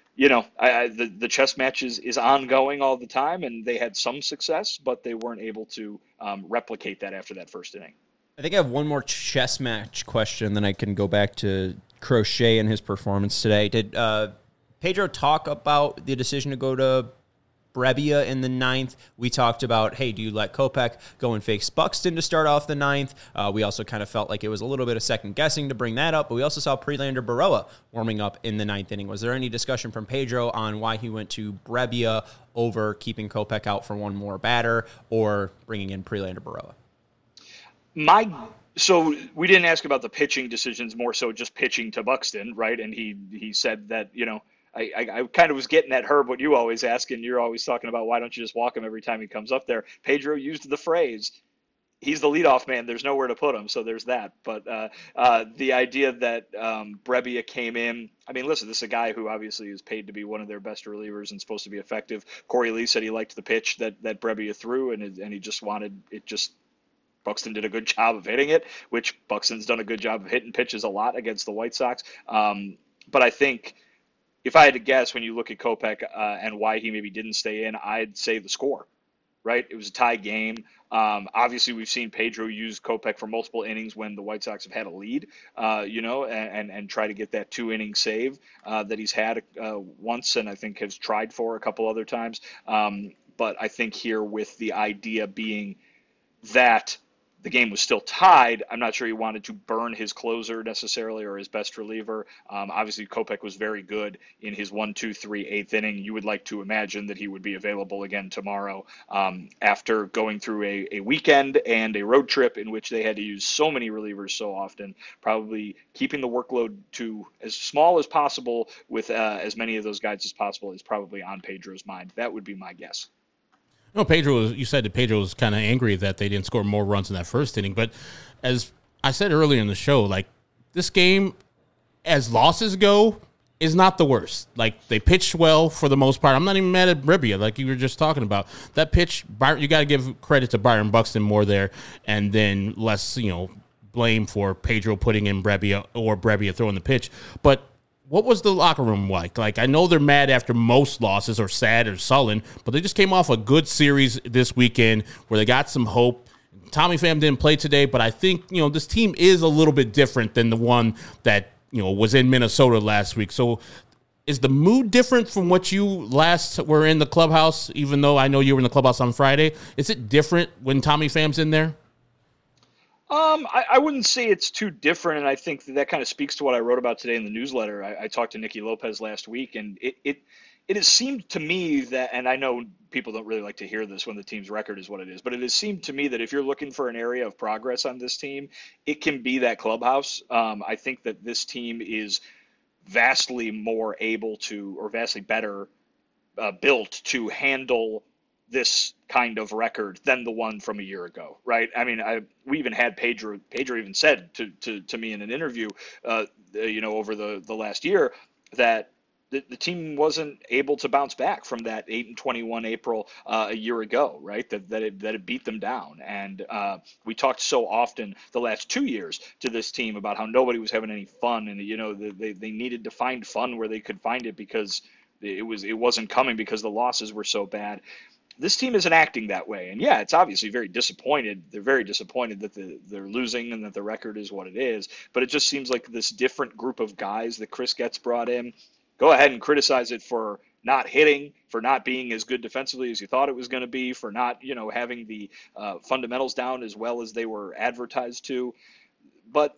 the chess match is ongoing all the time, and they had some success, but they weren't able to replicate that after that first inning. I think I have one more chess match question, then I can go back to Crochet and his performance today. Did Pedro talk about the decision to go to Brebbia in the 9th? We talked about, hey, do you let Kopech go and face Buxton to start off the 9th? We also kind of felt like it was a little bit of second guessing to bring that up, but we also saw Prelander Berroa warming up in the 9th inning. Was there any discussion from Pedro on why he went to Brebbia over keeping Kopech out for one more batter or bringing in Prelander Berroa? So we didn't ask about the pitching decisions, more so just pitching to Buxton, right? And he said that, I kind of was getting at Herb, what you always ask, and you're always talking about, why don't you just walk him every time he comes up there? Pedro used the phrase, he's the leadoff man, there's nowhere to put him, so there's that. But the idea that Brebbia came in, I mean, listen, this is a guy who obviously is paid to be one of their best relievers and supposed to be effective. Corey Lee said he liked the pitch that Brebbia threw, and he just wanted it just – Buxton did a good job of hitting it, which Buxton's done a good job of hitting pitches a lot against the White Sox. But I think if I had to guess, when you look at Kopech and why he maybe didn't stay in, I'd say the score, right? It was a tie game. Obviously, we've seen Pedro use Kopech for multiple innings when the White Sox have had a lead, and try to get that 2-inning save that he's had once, and I think has tried for a couple other times. But I think here, with the idea being that the game was still tied, I'm not sure he wanted to burn his closer necessarily, or his best reliever. Obviously, Kopech was very good in his 1, 2, 3, 8th inning. You would like to imagine that he would be available again tomorrow, after going through a weekend and a road trip in which they had to use so many relievers so often. Probably keeping the workload to as small as possible with as many of those guys as possible is probably on Pedro's mind. That would be my guess. No, you said that Pedro was kind of angry that they didn't score more runs in that first inning. But as I said earlier in the show, like, this game, as losses go, is not the worst. Like, they pitched well for the most part. I'm not even mad at Brebbia, like you were just talking about. That pitch, you got to give credit to Byron Buxton more there, and then less, blame for Pedro putting in Brebbia or Brebbia throwing the pitch. But what was the locker room like? Like, I know they're mad after most losses, or sad or sullen, but they just came off a good series this weekend where they got some hope. Tommy Pham didn't play today, but I think, this team is a little bit different than the one that, was in Minnesota last week. So is the mood different from what you last were in the clubhouse, even though I know you were in the clubhouse on Friday? Is it different when Tommy Pham's in there? I wouldn't say it's too different, and I think that kind of speaks to what I wrote about today in the newsletter. I talked to Nicky Lopez last week, and it has seemed to me that, and I know people don't really like to hear this when the team's record is what it is, but it has seemed to me that if you're looking for an area of progress on this team, it can be that clubhouse. I think that this team is vastly more able to, or vastly better built to handle this kind of record than the one from a year ago, right? I mean, we even had Pedro even said to me in an interview, over the last year that the team wasn't able to bounce back from that 8-21 April a year ago, right? That it beat them down. And we talked so often the last 2 years to this team about how nobody was having any fun, and they needed to find fun where they could find it because it wasn't coming because the losses were so bad. This team isn't acting that way. And yeah, it's obviously very disappointed. They're very disappointed that they're losing and that the record is what it is. But it just seems like this different group of guys that Chris Getz brought in. Go ahead and criticize it for not hitting, for not being as good defensively as you thought it was going to be, for not, having the fundamentals down as well as they were advertised to. But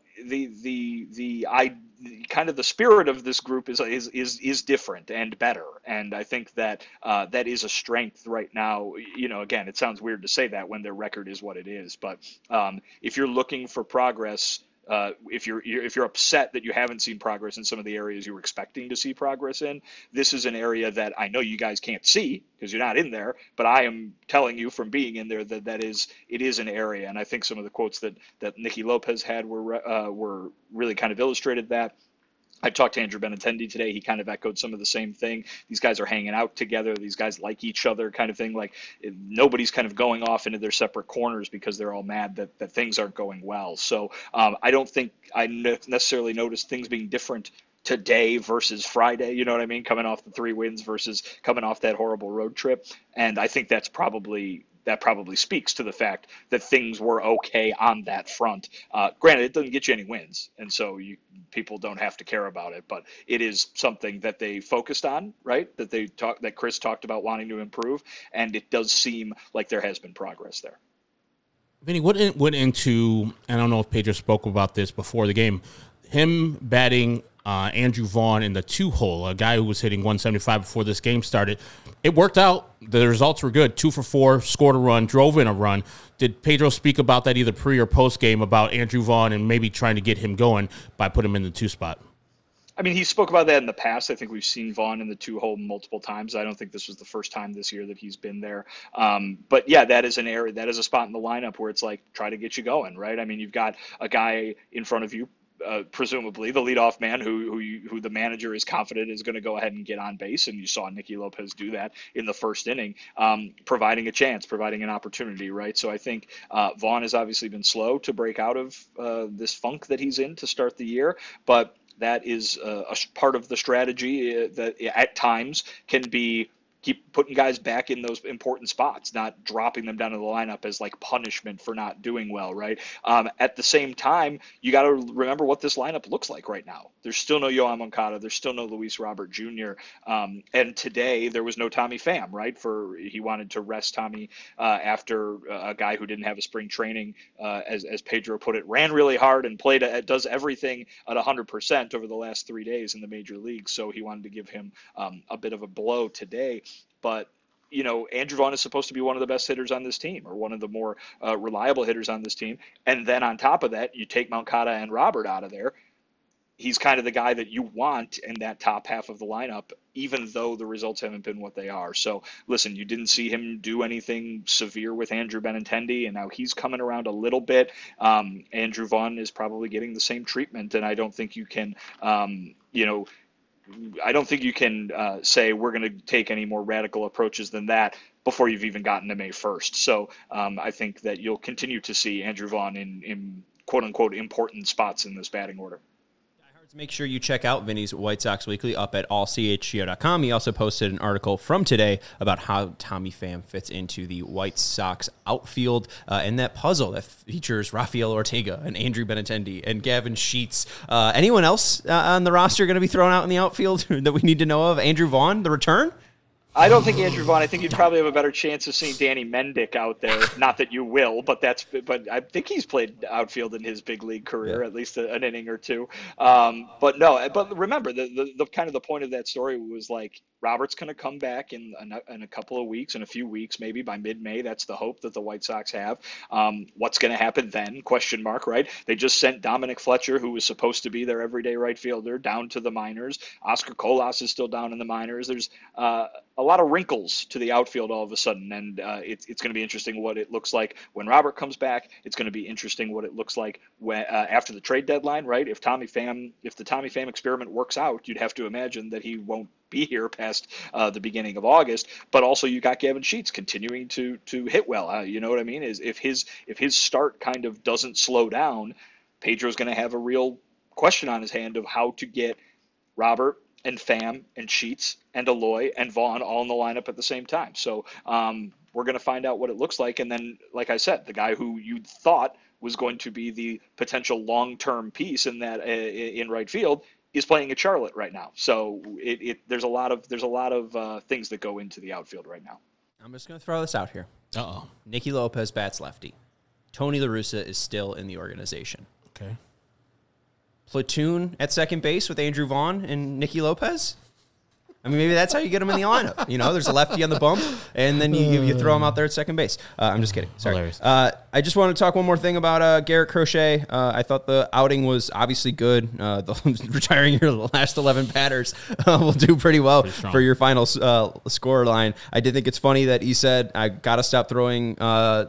the kind of the spirit of this group is different and better, and I think that that is a strength right now. Again, it sounds weird to say that when their record is what it is, but if you're looking for progress, if you're upset that you haven't seen progress in some of the areas you were expecting to see progress in, this is an area that I know you guys can't see because you're not in there, but I am telling you from being in there that it is an area. And I think some of the quotes that Nicky Lopez had were really kind of illustrated that. I talked to Andrew Benintendi today. He kind of echoed some of the same thing. These guys are hanging out together. These guys like each other, kind of thing. Like nobody's kind of going off into their separate corners because they're all mad that things aren't going well. So I don't think I necessarily noticed things being different today versus Friday. You know what I mean? Coming off the 3 wins versus coming off that horrible road trip. And I think that probably speaks to the fact that things were okay on that front. Granted, it doesn't get you any wins, and so people don't have to care about it, but it is something that they focused on, right? That Chris talked about wanting to improve, and it does seem like there has been progress there. Vinny, what went into, I don't know if Pedro spoke about this before the game, him batting Andrew Vaughn in the 2-hole, a guy who was hitting 175 before this game started. It worked out. The results were good. 2 for 4, scored a run, drove in a run. Did Pedro speak about that either pre or post game about Andrew Vaughn and maybe trying to get him going by putting him in the 2 spot? I mean, he spoke about that in the past. I think we've seen Vaughn in the 2-hole multiple times. I don't think this was the first time this year that he's been there. But yeah, that is an area, that is a spot in the lineup where it's like, try to get you going, right? I mean, you've got a guy in front of you, presumably the leadoff man who the manager is confident is going to go ahead and get on base. And you saw Nicky Lopez do that in the first inning, providing a chance, providing an opportunity, right? So I think Vaughn has obviously been slow to break out of this funk that he's in to start the year, but that is a part of the strategy that at times can be keep putting guys back in those important spots, not dropping them down to the lineup as like punishment for not doing well, right? At the same time, you got to remember what this lineup looks like right now. There's still no Yoan Moncada. There's still no Luis Robert Jr. And today there was no Tommy Pham, right? He wanted to rest Tommy after a guy who didn't have a spring training, as Pedro put it, ran really hard and does everything at 100% over the last 3 days in the major leagues. So he wanted to give him a bit of a blow today. But, Andrew Vaughn is supposed to be one of the best hitters on this team, or one of the more reliable hitters on this team. And then on top of that, you take Moncada and Robert out of there. He's kind of the guy that you want in that top half of the lineup, even though the results haven't been what they are. So, listen, you didn't see him do anything severe with Andrew Benintendi, and now he's coming around a little bit. Andrew Vaughn is probably getting the same treatment, and I don't think you can, say we're going to take any more radical approaches than that before you've even gotten to May 1st. So I think that you'll continue to see Andrew Vaughn in quote-unquote important spots in this batting order. Make sure you check out Vinny's White Sox Weekly up at allchgo.com. He also posted an article from today about how Tommy Pham fits into the White Sox outfield and that puzzle that features Rafael Ortega and Andrew Benintendi and Gavin Sheets. Anyone else on the roster going to be thrown out in the outfield that we need to know of? Andrew Vaughn, the return? I don't think Andrew Vaughn. I think you'd probably have a better chance of seeing Danny Mendick out there. Not that you will, but I think he's played outfield in his big league career, at least an inning or two. But remember, the kind of the point of that story was like Robert's going to come back in a couple of weeks, in a few weeks, maybe by mid-May. That's the hope that the White Sox have. What's going to happen then? Question mark, right? They just sent Dominic Fletcher, who was supposed to be their everyday right fielder, down to the minors. Oscar Colas is still down in the minors. There's a lot of wrinkles to the outfield all of a sudden, and it's going to be interesting what it looks like when Robert comes back. It's going to be interesting what it looks like when after the trade deadline, right? If the Tommy Pham experiment works out, you'd have to imagine that he won't be here past the beginning of August. But also, you got Gavin Sheets continuing to hit well. You know what I mean? Is if his start kind of doesn't slow down, Pedro's going to have a real question on his hand of how to get Robert and Pham and Sheets and Eloy and Vaughn all in the lineup at the same time. So we're going to find out what it looks like. And then, like I said, the guy who you thought was going to be the potential long-term piece in that in right field is playing at Charlotte right now. So there's a lot of things that go into the outfield right now. I'm just going to throw this out here. Uh-oh. Nicky Lopez bats lefty. Tony La Russa is still in the organization. Okay. Platoon at second base with Andrew Vaughn and Nicky Lopez? I mean, maybe that's how you get him in the lineup. You know, there's a lefty on the bump, and then you throw him out there at second base. I'm just kidding. Sorry. I just want to talk one more thing about Garrett Crochet. I thought the outing was obviously good. Retiring your last 11 batters will do pretty well for your final score line. I did think it's funny that he said, I got to stop throwing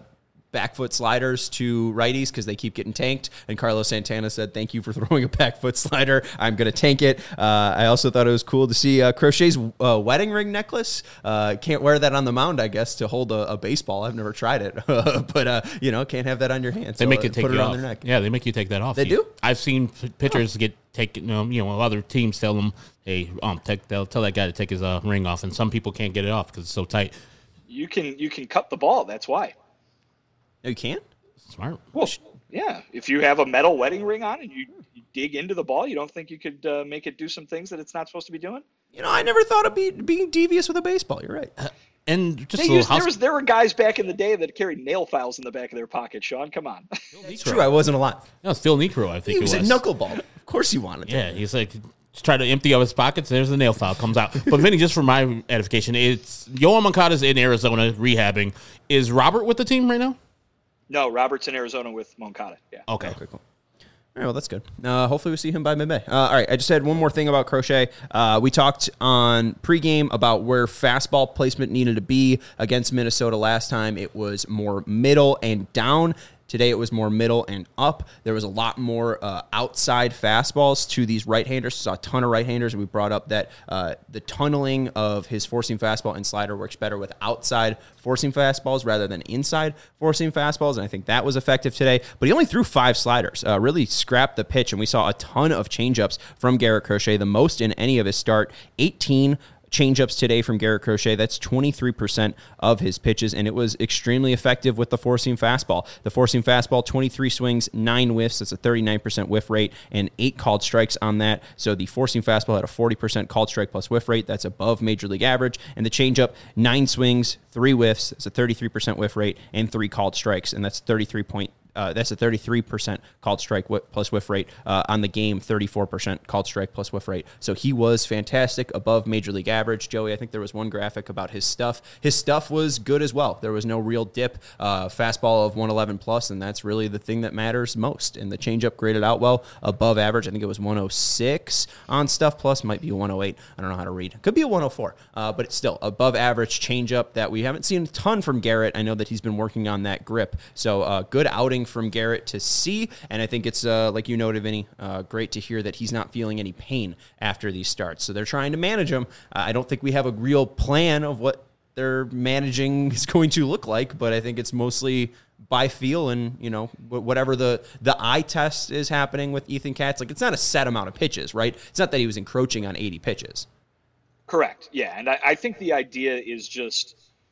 back foot sliders to righties because they keep getting tanked. And Carlos Santana said, thank you for throwing a back foot slider. I'm going to tank it. I also thought it was cool to see Crochet's wedding ring necklace. Can't wear that on the mound, I guess, to hold a baseball. I've never tried it. But, can't have that on your hand. They make you take put it on off. their neck. Yeah, they make you take that off. They do? I've seen pitchers get taken, other teams tell them, hey, they'll tell that guy to take his ring off. And some people can't get it off because it's so tight. You can cut the ball. That's why. No, you can't? Smart. Well, yeah. If you have a metal wedding ring on and you dig into the ball, you don't think you could make it do some things that it's not supposed to be doing? I never thought of being devious with a baseball. You're right. And just there were guys back in the day that carried nail files in the back of their pocket, Sean. Come on. It's true. I wasn't alive. No, Phil Niekro, I think he was a knuckleball. Of course he wanted to. Yeah, he's like, try to empty out his pockets. There's the nail file comes out. But Vinny, just for my edification, it's Yoel Moncada's in Arizona rehabbing. Is Robert with the team right now? No, Robert's in Arizona with Moncada. Yeah. Okay, cool. All right, well, that's good. Hopefully we see him by mid-May. All right, I just had one more thing about Crochet. We talked on pregame about where fastball placement needed to be against Minnesota last time. It was more middle and down. Today it was more middle and up. There was a lot more outside fastballs to these right-handers. Saw a ton of right-handers. We brought up that the tunneling of his forcing fastball and slider works better with outside forcing fastballs rather than inside forcing fastballs, and I think that was effective today. But he only threw 5 sliders, really scrapped the pitch, and we saw a ton of changeups from Garrett Crochet, the most in any of his start, 18 changeups today from Garrett Crochet. That's 23% of his pitches, and it was extremely effective with the four-seam fastball. The four-seam fastball, 23 swings, 9 whiffs. That's a 39% whiff rate, and 8 called strikes on that. So the four-seam fastball had a 40% called strike plus whiff rate. That's above major league average. And the changeup, 9 swings, 3 whiffs. That's a 33% whiff rate, and 3 called strikes, and that's 33% called strike plus whiff rate on the game, 34% called strike plus whiff rate. So he was fantastic, above major league average. Joey, I think there was one graphic about his stuff. His stuff was good as well. There was no real dip, fastball of 111 plus, and that's really the thing that matters most. And the changeup graded out well, above average. I think it was 106 on stuff plus, might be 108. I don't know how to read. Could be a 104, but it's still above average changeup that we haven't seen a ton from Garrett. I know that he's been working on that grip. So good outing from Garrett to see, and I think it's, like you noted, Vinny, great to hear that he's not feeling any pain after these starts. So they're trying to manage him. I don't think we have a real plan of what their managing is going to look like, but I think it's mostly by feel and, whatever the eye test is happening with Ethan Katz. Like, it's not a set amount of pitches, right? It's not that he was encroaching on 80 pitches. Correct. Yeah, and I think the idea is just,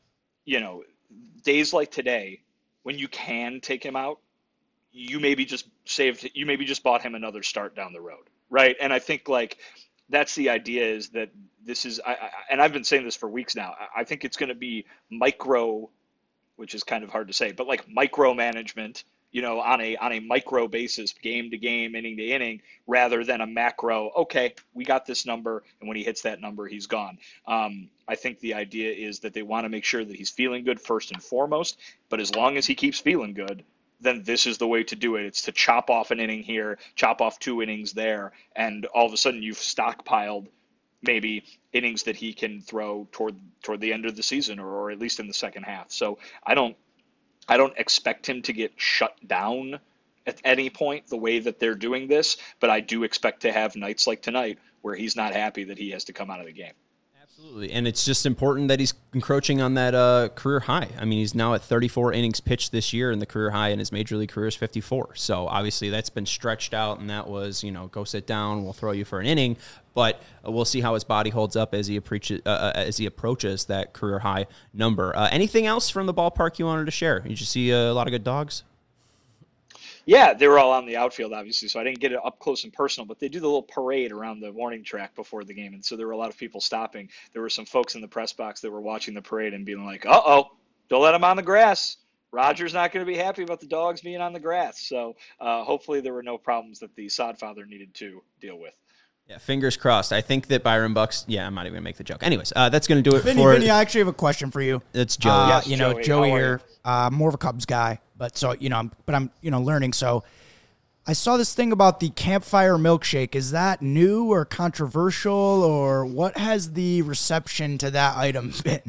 days like today, when you can take him out, you maybe just bought him another start down the road, right? And I think, like, that's the idea, is that this is, and I've been saying this for weeks now, I think it's going to be micro, which is kind of hard to say, but like micromanagement, on a micro basis, game to game, inning to inning, rather than a macro, okay, we got this number, and when he hits that number, he's gone. I think the idea is that they want to make sure that he's feeling good first and foremost, but as long as he keeps feeling good, then this is the way to do it. It's to chop off an inning here, chop off 2 innings there, and all of a sudden you've stockpiled maybe innings that he can throw toward the end of the season, or at least in the second half. So I don't expect him to get shut down at any point the way that they're doing this, but I do expect to have nights like tonight where he's not happy that he has to come out of the game. Absolutely, and it's just important that he's encroaching on that career high. I mean, he's now at 34 innings pitched this year, and the career high in his major league career is 54. So obviously that's been stretched out, and that was, go sit down, we'll throw you for an inning. But we'll see how his body holds up as he approaches that career high number. Anything else from the ballpark you wanted to share? Did you see a lot of good dogs? Yeah, they were all on the outfield, obviously, so I didn't get it up close and personal, but they do the little parade around the warning track before the game, and so there were a lot of people stopping. There were some folks in the press box that were watching the parade and being like, uh-oh, don't let them on the grass. Roger's not going to be happy about the dogs being on the grass. So hopefully there were no problems that the sod father needed to deal with. Yeah, fingers crossed. I think that Byron Bucks. Yeah, I'm not even gonna make the joke. Anyways, that's gonna do it Vinny, for. Vinny, I actually have a question for you. It's Joey. Yes, Joey here. More of a Cubs guy, but so I'm learning. So I saw this thing about the campfire milkshake. Is that new or controversial, or what has the reception to that item been?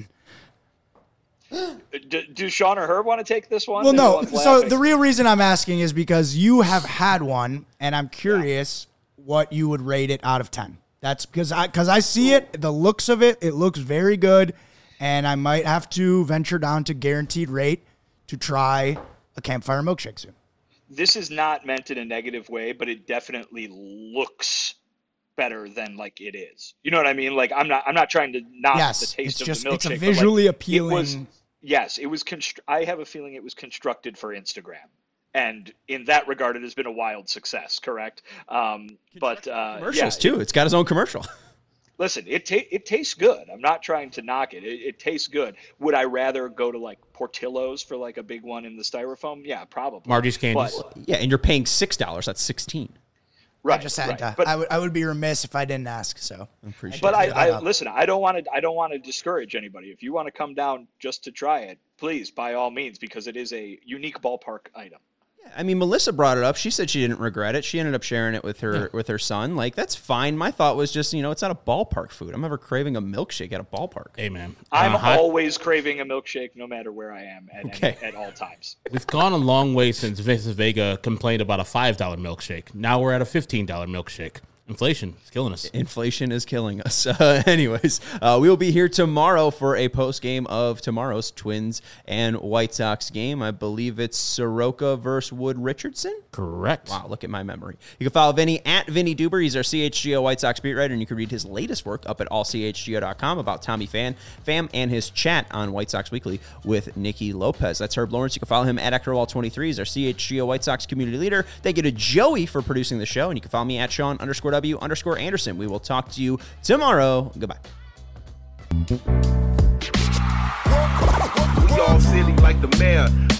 Do Sean or Herb want to take this one? Well, no. So the real reason I'm asking is because you have had one, and I'm curious what you would rate it out of 10. That's because I see it, the looks of it, it looks very good, and I might have to venture down to Guaranteed Rate to try a campfire milkshake soon. This is not meant in a negative way, but it definitely looks better than like it is. You know what I mean? Like I'm not trying to knock the taste of the milkshake. It's a visually appealing. It was. I have a feeling it was constructed for Instagram. And in that regard, it has been a wild success, correct? Commercials, too. It's got its own commercial. Listen, it tastes good. I'm not trying to knock it. It tastes good. Would I rather go to, like, Portillo's for, like, a big one in the styrofoam? Yeah, probably. Marty's Candies. Yeah, and you're paying $6. That's $16. Right. I just had to. But I would be remiss if I didn't ask. So I appreciate. But I listen. I don't want to discourage anybody. If you want to come down just to try it, please, by all means, because it is a unique ballpark item. I mean, Melissa brought it up. She said she didn't regret it. She ended up sharing it with her son. Like, that's fine. My thought was just, it's not a ballpark food. I'm never craving a milkshake at a ballpark. Hey, man. I'm always craving a milkshake no matter where I am at all times. We've gone a long way since Vincent Vega complained about a $5 milkshake. Now we're at a $15 milkshake. Inflation is killing us. Inflation is killing us. Anyways, we will be here tomorrow for a post-game of tomorrow's Twins and White Sox game. I believe it's Soroka versus Wood Richardson. Correct. Wow, look at my memory. You can follow Vinny at Vinny Duber. He's our CHGO White Sox beat writer, and you can read his latest work up at allchgo.com about Tommy Pham and his chat on White Sox Weekly with Nicky Lopez. That's Herb Lawrence. You can follow him at Ectorwall23. He's our CHGO White Sox community leader. Thank you to Joey for producing the show, and you can follow me at Sean_W_Anderson. We will talk to you tomorrow. Goodbye. We all silly like the mayor.